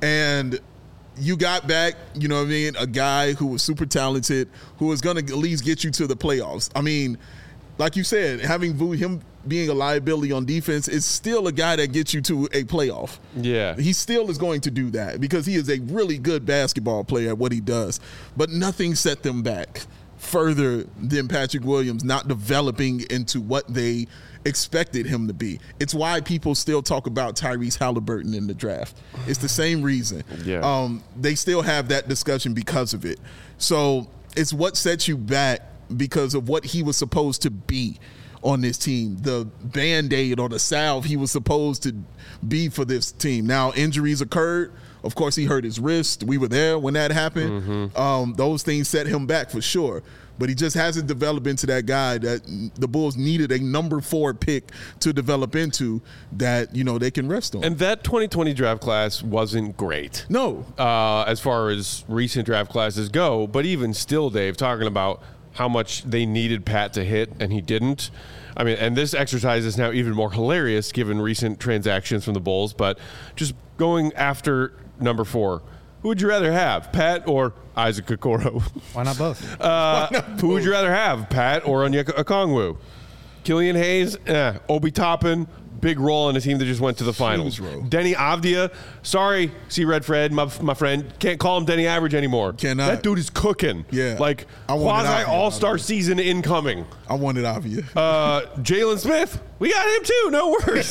And you got back, you know what I mean, a guy who was super talented, who was going to at least get you to the playoffs. I mean, like you said, having him being a liability on defense is still a guy that gets you to a playoff. Yeah. He still is going to do that because he is a really good basketball player at what he does. But nothing set them back further than Patrick Williams not developing into what they expected him to be. It's why people still talk about Tyrese Halliburton in the draft. It's the same reason. Yeah. They still have that discussion because of it. So it's what sets you back because of what he was supposed to be on this team, the Band-Aid or the salve he was supposed to be for this team. Now, injuries occurred. Of course, he hurt his wrist. We were there when that happened. Those things set him back for sure. But he just hasn't developed into that guy that the Bulls needed a number 4 pick to develop into that, they can rest on. And that 2020 draft class wasn't great. No. As far as recent draft classes go. But even still, Dave, talking about how much they needed Pat to hit and he didn't. I mean, and this exercise is now even more hilarious given recent transactions from the Bulls. But just going after number 4, who would you rather have, Pat or Isaac Okoro? Why not both? Who would you rather have, Pat or Onyeka Okongwu? Killian Hayes, Obi Toppin, big role in a team that just went to the finals. Denny Avdia, sorry, see Red Fred, my friend, can't call him Denny Average anymore. Cannot. That dude is cooking. Yeah. Like quasi all-star season incoming. I wanted Avdia. Jalen Smith, we got him too, no worries.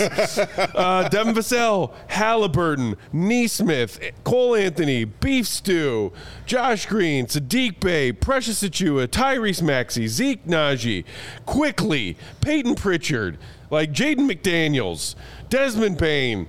Devin Vassell, Halliburton, Neesmith, Cole Anthony, Beef Stew, Josh Green, Sadiq Bey, Precious Achua, Tyrese Maxey, Zeke Naji, Quickly, Peyton Pritchard, like Jaden McDaniels, Desmond Payne.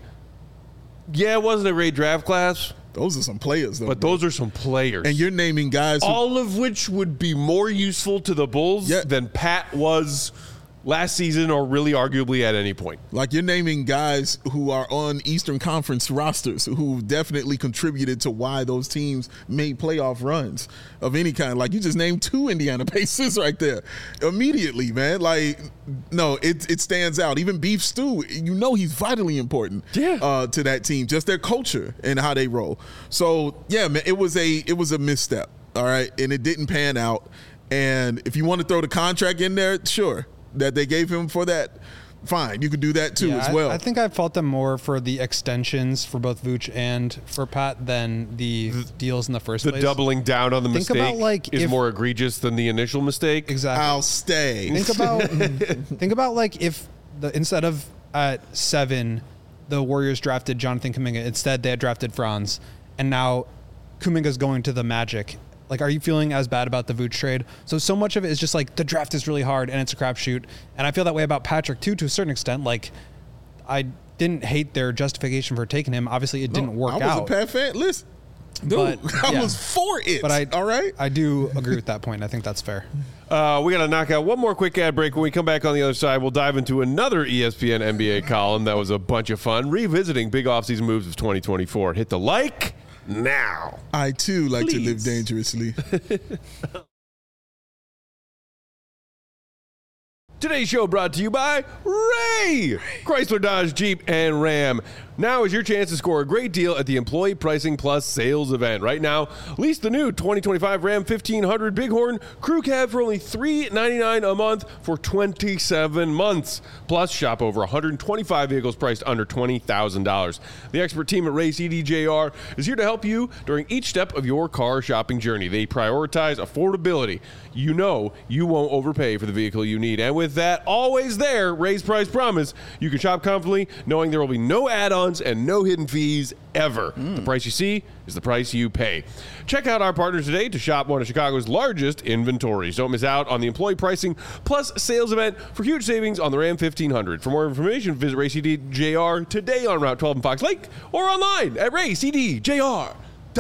Yeah, it wasn't a great draft class. Those are some players, though. But those are some players. And you're naming guys all of which would be more useful to the Bulls than Pat was last season or really arguably at any point. Like you're naming guys who are on Eastern Conference rosters who definitely contributed to why those teams made playoff runs of any kind. Like you just named 2 Indiana Pacers right there immediately, man. Like, no, it stands out. Even Beef Stew, he's vitally important to that team, just their culture and how they roll. So, yeah, man, it was a misstep, all right? And it didn't pan out. And if you want to throw the contract in there, sure, that they gave him for that. fine. You could do that too as well. I think I fault them more for the extensions for both Vooch and for Pat than the deals in the first place. The doubling down on the mistake is more egregious than the initial mistake. Exactly. I'll stay. Think about like if instead of at 7, the Warriors drafted Jonathan Kuminga. Instead, they had drafted Franz, and now Kuminga's going to the Magic. Like, are you feeling as bad about the Vooch trade? So much of it is just like the draft is really hard and it's a crapshoot. And I feel that way about Patrick too, to a certain extent. Like, I didn't hate their justification for taking him. Obviously, it didn't work out. I was a Pat fan. Listen, dude, I was for it. But all right, I do agree with that point. I think that's fair. We got to knock out one more quick ad break. When we come back on the other side, we'll dive into another ESPN NBA column that was a bunch of fun, revisiting big offseason moves of 2024. Hit the like now. I too like to live dangerously. Today's show brought to you by Ray! Chrysler, Dodge, Jeep, and Ram. Now is your chance to score a great deal at the Employee Pricing Plus sales event. Right now, lease the new 2025 Ram 1500 Bighorn Crew Cab for only $399 a month for 27 months. Plus, shop over 125 vehicles priced under $20,000. The expert team at Ray CDJR is here to help you during each step of your car shopping journey. They prioritize affordability. You know you won't overpay for the vehicle you need. And with that always there, Ray's price promise, you can shop confidently knowing there will be no add-ons and no hidden fees ever. The price you see is the price you pay. Check out our partners today to shop one of Chicago's largest inventories. Don't miss out on the Employee Pricing Plus sales event for huge savings on the Ram 1500. For more information, visit RayCDJR today on Route 12 in Fox Lake or online at RayCDJR.com.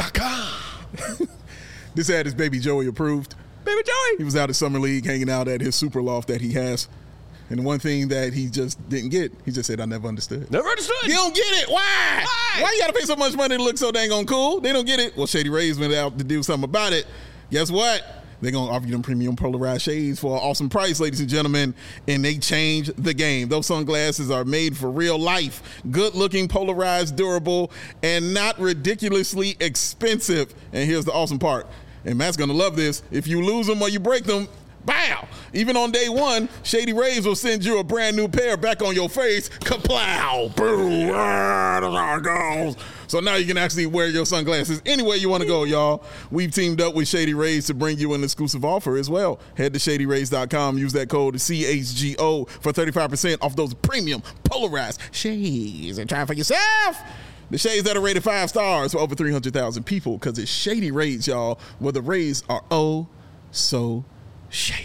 This ad is Baby Joey approved. Baby Joey! He was out at Summer League hanging out at his super loft that he has. And one thing that he just didn't get, he just said, I never understood. Never understood. You don't get it. Why? Why you got to pay so much money to look so dang on cool? They don't get it. Well, Shady Rays went out to do something about it. Guess what? They're going to offer you them premium polarized shades for an awesome price, ladies and gentlemen, and they changed the game. Those sunglasses are made for real life, good-looking, polarized, durable, and not ridiculously expensive. And here's the awesome part. And Matt's going to love this. If you lose them or you break them, bow! Even on day one, Shady Rays will send you a brand new pair back on your face. Kaplow! Boom! That's how it goes. So now you can actually wear your sunglasses anywhere you want to go, y'all. We've teamed up with Shady Rays to bring you an exclusive offer as well. Head to ShadyRays.com. Use that code CHGO for 35% off those premium polarized shades. And try it for yourself. The shades that are rated 5 stars for over 300,000 people, because it's Shady Rays, y'all, where the Rays are oh so shady.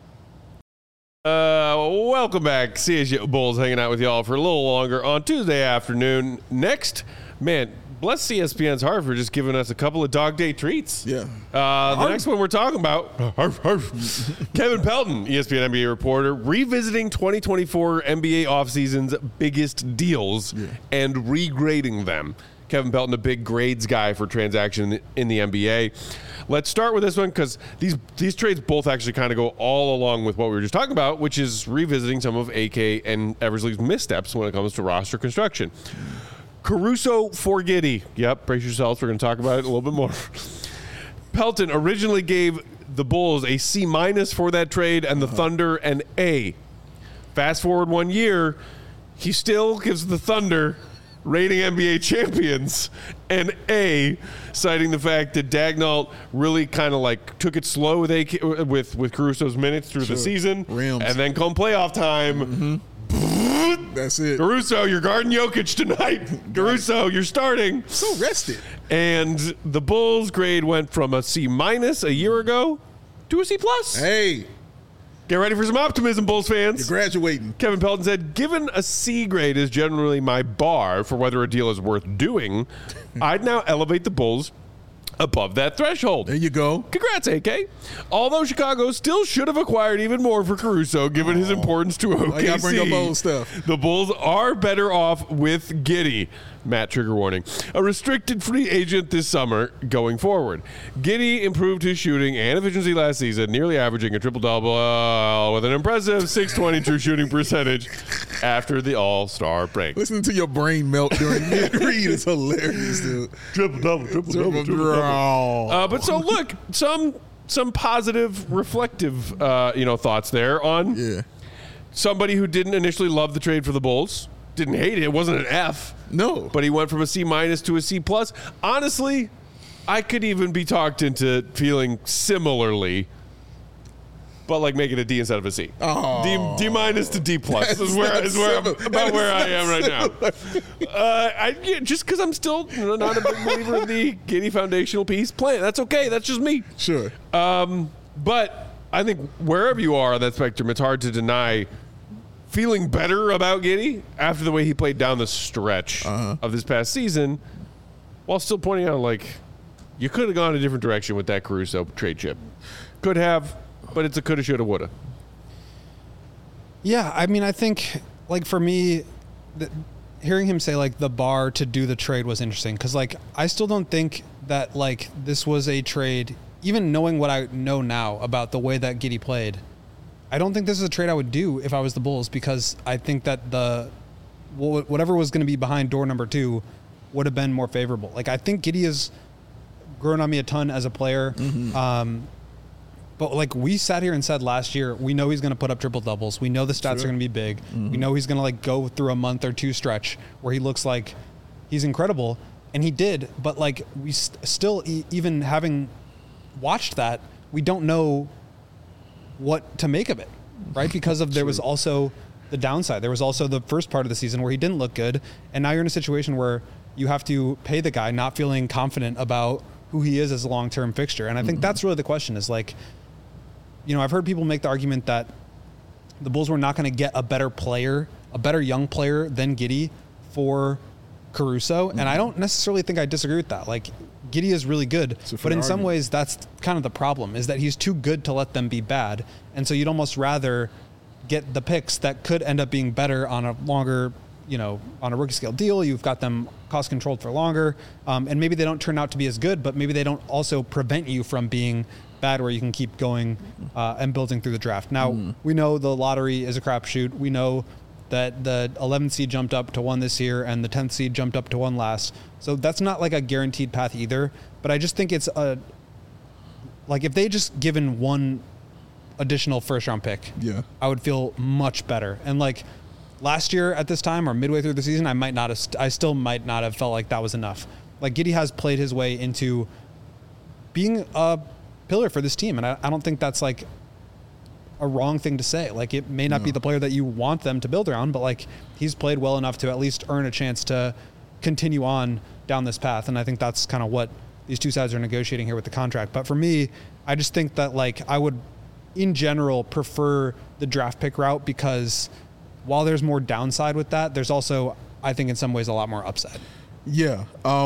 Welcome back. CSU Bulls hanging out with y'all for a little longer on Tuesday afternoon. Next, man, bless ESPN's heart for just giving us a couple of dog day treats. Yeah. The next one we're talking about, Kevin Pelton, ESPN NBA reporter, revisiting 2024 NBA offseason's biggest deals and regrading them. Kevin Pelton, a big grades guy for transaction in the NBA. Let's start with this one because these trades both actually kind of go all along with what we were just talking about, which is revisiting some of AK and Eversley's missteps when it comes to roster construction. Caruso for Giddey. Yep, brace yourselves. We're going to talk about it a little bit more. Pelton originally gave the Bulls a C- for that trade and the Thunder an A. Fast forward 1 year, he still gives the Thunder reigning NBA champions an A, citing the fact that Dagnall really kind of like took it slow with Caruso's minutes through the season. Rims. And then come playoff time, that's it. Caruso, you're guarding Jokic tonight. Caruso, you're starting. So rested. And the Bulls' grade went from a C- a year ago to a C+. Hey. Get ready for some optimism, Bulls fans. You're graduating. Kevin Pelton said, given a C grade is generally my bar for whether a deal is worth doing, I'd now elevate the Bulls above that threshold. There you go. Congrats, AK. Although Chicago still should have acquired even more for Caruso, given his importance to OKC. I gotta bring up old stuff. The Bulls are better off with Giddey. Matt, trigger warning. A restricted free agent this summer going forward. Giddey improved his shooting and efficiency last season, nearly averaging a triple-double with an impressive .620 true shooting percentage after the All-Star break. Listening to your brain melt during mid-read is hilarious, dude. Triple-double, triple-double, triple-double. But so, look, some positive, reflective, thoughts there on somebody who didn't initially love the trade for the Bulls. Didn't hate it. It wasn't an F. No. But he went from a C- to a C+. Honestly, I could even be talked into feeling similarly, but like making a D instead of a C. Oh. D- to D+ is where I am right now. Just because I'm still not a big believer in the Giddey foundational piece plan. That's okay. That's just me. Sure. But I think wherever you are on that spectrum, it's hard to deny feeling better about Giddey after the way he played down the stretch of this past season, while still pointing out, like, you could have gone a different direction with that Caruso trade chip. Could have, but it's a coulda, shoulda, woulda. Yeah, I mean, I think, like, for me, hearing him say, like, the bar to do the trade was interesting, because, like, I still don't think that, like, this was a trade, even knowing what I know now about the way that Giddey played, I don't think this is a trade I would do if I was the Bulls, because I think that whatever was going to be behind door number 2 would have been more favorable. Like, I think Giddey has grown on me a ton as a player. Mm-hmm. But like we sat here and said last year, we know he's going to put up triple doubles. We know the stats are going to be big. Mm-hmm. We know he's going to like go through a month or 2 stretch where he looks like he's incredible. And he did. But like we still, even having watched that, we don't know what to make of it, right? Because there was also the downside. There was also the first part of the season where he didn't look good, and now you're in a situation where you have to pay the guy not feeling confident about who he is as a long-term fixture. And I think that's really the question is like, you know, I've heard people make the argument that the Bulls were not going to get a better player, a better young player than Giddey for Caruso, and I don't necessarily think I disagree with that. Like, Giddey is really good, but in some ways that's kind of the problem, is that he's too good to let them be bad. And so you'd almost rather get the picks that could end up being better on a longer, you know, on a rookie scale deal. You've got them cost controlled for longer. And maybe they don't turn out to be as good, but maybe they don't also prevent you from being bad where you can keep going and building through the draft. Now, we know the lottery is a crapshoot. We know that the 11th seed jumped up to 1 this year and the 10th seed jumped up to 1 last. So that's not like a guaranteed path either. But I just think it's like if they just given 1 additional first round pick, I would feel much better. And like last year at this time or midway through the season, I still might not have felt like that was enough. Like Giddey has played his way into being a pillar for this team. And I don't think that's like a wrong thing to say. Like it may not be the player that you want them to build around, but like he's played well enough to at least earn a chance to continue on down this path. And I think that's kind of what these two sides are negotiating here with the contract. But for me, I just think that like I would in general prefer the draft pick route, because while there's more downside with that, there's also, I think in some ways, a lot more upside. Yeah.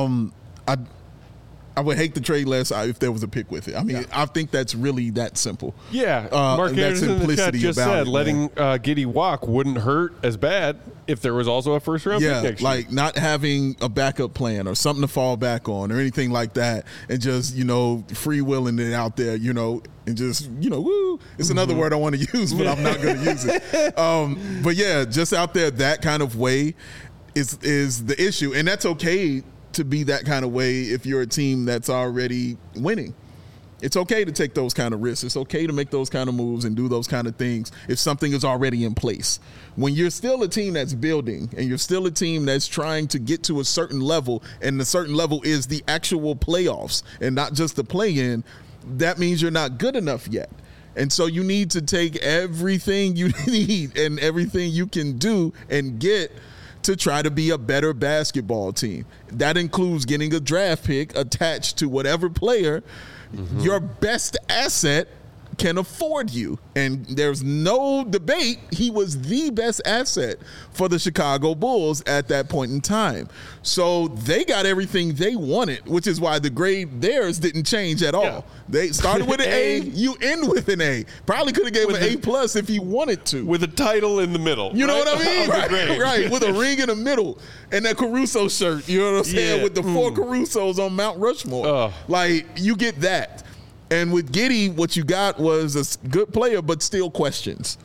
I would hate the trade less if there was a pick with it. I mean, I think that's really that simple. Yeah. Mark Anderson in the chat just said letting Giddey walk wouldn't hurt as bad if there was also a first-round pick next year. Like not having a backup plan or something to fall back on or anything like that, and just, you know, free-willing it out there, you know, and just, you know, woo. It's another word I want to use, but I'm not going to use it. But, yeah, just out there that kind of way is the issue. And that's okay to be that kind of way if you're a team that's already winning. It's okay to take those kind of risks. It's okay to make those kind of moves and do those kind of things if something is already in place. When you're still a team that's building and you're still a team that's trying to get to a certain level, and the certain level is the actual playoffs and not just the play-in, that means you're not good enough yet. And so you need to take everything you need and everything you can do and get to try to be a better basketball team. That includes getting a draft pick attached to whatever player your best asset can afford you. And there's no debate, he was the best asset for the Chicago Bulls at that point in time. So they got everything they wanted, which is why the grade theirs didn't change at all. Yeah. They started with an A, you end with an A. Probably could have gave him an A+ if he wanted to. With a title in the middle. You know what I mean? Right, with a ring in the middle. And that Caruso shirt, you know what I'm saying? With the 4 Carusos on Mount Rushmore. Like, you get that. And with Giddey, what you got was a good player, but still questions.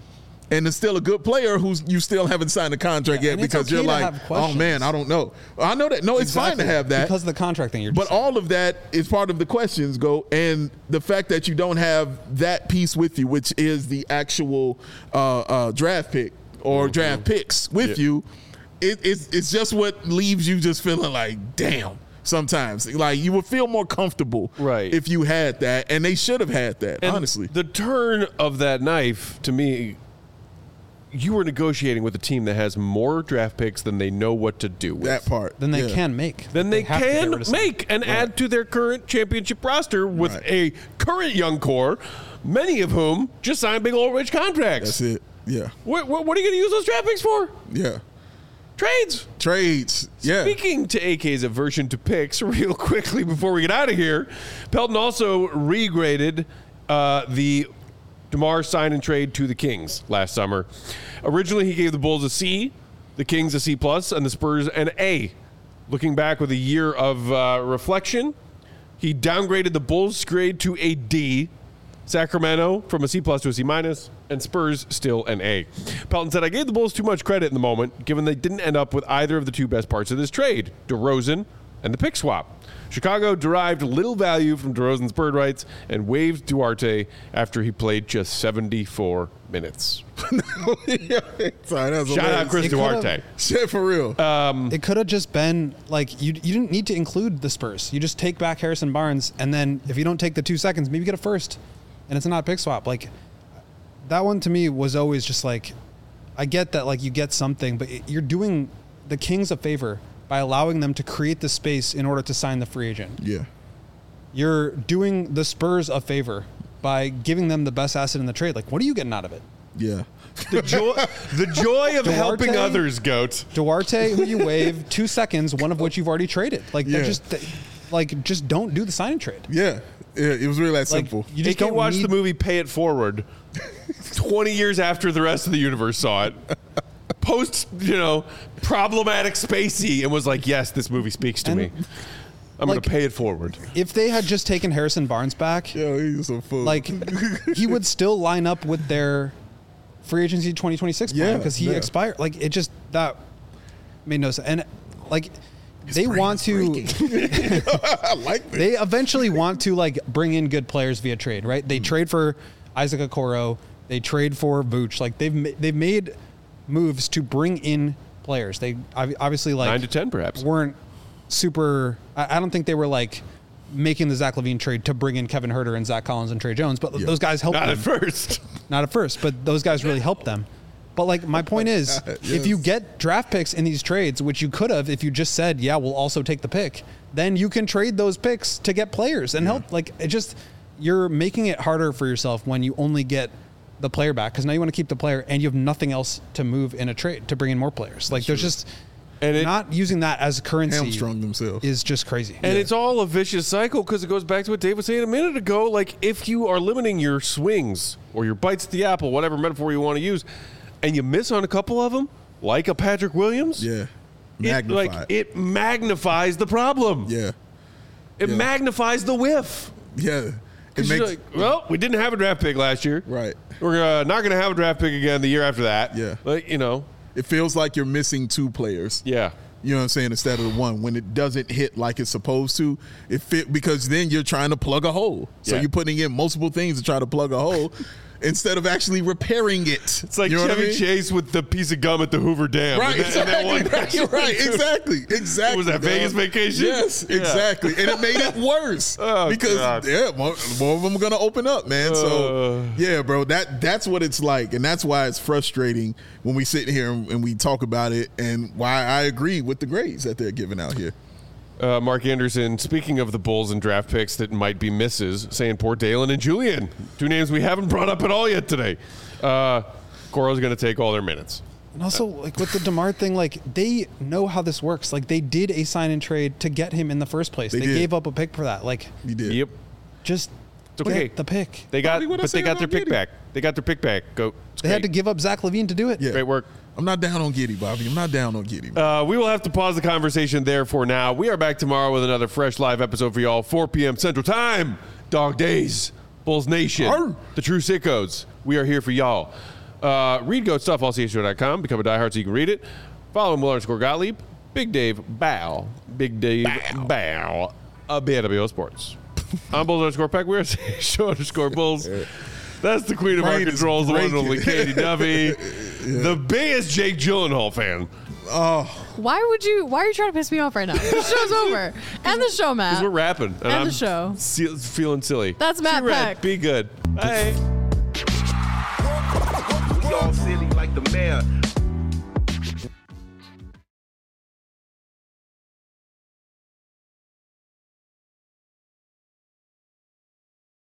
and it's still a good player who's you still haven't signed a contract yet because okay you're like, oh man, I don't know. I know that. No, it's fine to have that because of the contract thing. But all of that is part of the questions, and the fact that you don't have that piece with you, which is the actual draft pick or draft picks with you, it's just what leaves you just feeling like, damn. Sometimes, like, you would feel more comfortable if you had that, and they should have had that, and honestly. The turn of that knife, to me, you were negotiating with a team that has more draft picks than they know what to do with. That part. Than they can make. Then they can make and add to their current championship roster with a current young core, many of whom just signed big old rich contracts. That's it. Yeah. What are you going to use those draft picks for? Yeah. Trades. Yeah. Speaking to AK's aversion to picks, real quickly before we get out of here, Pelton also regraded the DeMar sign and trade to the Kings last summer. Originally, he gave the Bulls a C, the Kings a C+, and the Spurs an A. Looking back with a year of reflection, he downgraded the Bulls' grade to a D, Sacramento from a C+ to a C-, and Spurs still an A. Pelton said, I gave the Bulls too much credit in the moment, given they didn't end up with either of the two best parts of this trade, DeRozan and the pick swap. Chicago derived little value from DeRozan's bird rights and waived Duarte after he played just 74 minutes. Sorry, shout out Chris Duarte. Shit, for real. It could have just been like you didn't need to include the Spurs. You just take back Harrison Barnes, and then if you don't take the 2 seconds, maybe you get a first. And it's not a pick swap. Like, that one to me was always just like, I get that, like, you get something, but you're doing the Kings a favor by allowing them to create the space in order to sign the free agent. Yeah. You're doing the Spurs a favor by giving them the best asset in the trade. Like, what are you getting out of it? Yeah. The joy of Duarte, helping others, Goat. Duarte, who you waive 2 seconds, one of which you've already traded. Like, just don't do the sign and trade. Yeah. Yeah, it was really that simple. You just don't watch the movie Pay It Forward 20 years after the rest of the universe saw it. Post, problematic Spacey, and was like, yes, this movie speaks to me. I'm going to pay it forward. If they had just taken Harrison Barnes back, he's a fool. Like, he would still line up with their free agency 2026 plan because he expired. Like, it just, that made no sense. And, like, they want to I like this. They eventually want to, like, bring in good players via trade, right? They trade for Isaac Okoro, they trade for Vooch. Like, they've made moves to bring in players. They obviously, like, 9 to 10 perhaps weren't super. I don't think they were like making the Zach LaVine trade to bring in Kevin Huerter and Zach Collins and Trey Jones, but those guys helped them. Not at first, but those guys really helped them. But, like, my point is, if you get draft picks in these trades, which you could have if you just said, yeah, we'll also take the pick, then you can trade those picks to get players and help. Like, it just, you're making it harder for yourself when you only get the player back, because now you want to keep the player and you have nothing else to move in a trade to bring in more players. Like, there's just, and not using that as currency hamstrung themselves is just crazy. And it's all a vicious cycle, because it goes back to what Dave was saying a minute ago. Like, if you are limiting your swings or your bites at the apple, whatever metaphor you want to use, and you miss on a couple of them, like a Patrick Williams, it magnifies the problem. Yeah, it magnifies the whiff. Yeah, it makes like, well, we didn't have a draft pick last year. Right, we're not going to have a draft pick again the year after that. Yeah, like, it feels like you're missing 2 players. Yeah. You know what I'm saying? Instead of the one, when it doesn't hit like it's supposed to, it fit, because then you're trying to plug a hole. So you're putting in multiple things to try to plug a hole instead of actually repairing it. It's like Chevy Chase with the piece of gum at the Hoover Dam. Right, exactly. Exactly. Was that Vegas Vacation? Yes, exactly. And it made it worse because more of them are going to open up, man. So yeah, bro, that's what it's like, and that's why it's frustrating when we sit here and we talk about it, and why I agree with the grades that they're giving out here. Mark Anderson, speaking of the Bulls and draft picks that might be misses, saying poor Dalen and Julian. 2 names we haven't brought up at all yet today. Coro's going to take all their minutes. And also, like, with the DeMar thing, like, they know how this works. Like, they did a sign and trade to get him in the first place. They gave up a pick for that. Like, you did. Yep. Just get the pick. They got their pick back. They got their pick back. They had to give up Zach LaVine to do it. Yeah. Great work. I'm not down on Giddey, Bobby. I'm not down on Giddey. We will have to pause the conversation there for now. We are back tomorrow with another fresh live episode for y'all, 4 p.m. Central Time. Dog Days, Bulls Nation, the True Sickos. We are here for y'all. Read Goat Stuff, allchshow.com. Become a diehard so you can read it. Follow him, Will_Gottlieb. Big Dave Bow. Big Dave Bow. BWO Sports. I'm Bulls_Peck. We're Show_Bulls. That's the queen of our controls, the one and only Katie Duffy. The biggest Jake Gyllenhaal fan. Oh. Why are you trying to piss me off right now? The show's over. End the show, Matt. Because we're rapping. And End the show. Feeling silly. That's Matt Peck. Be good. Bye.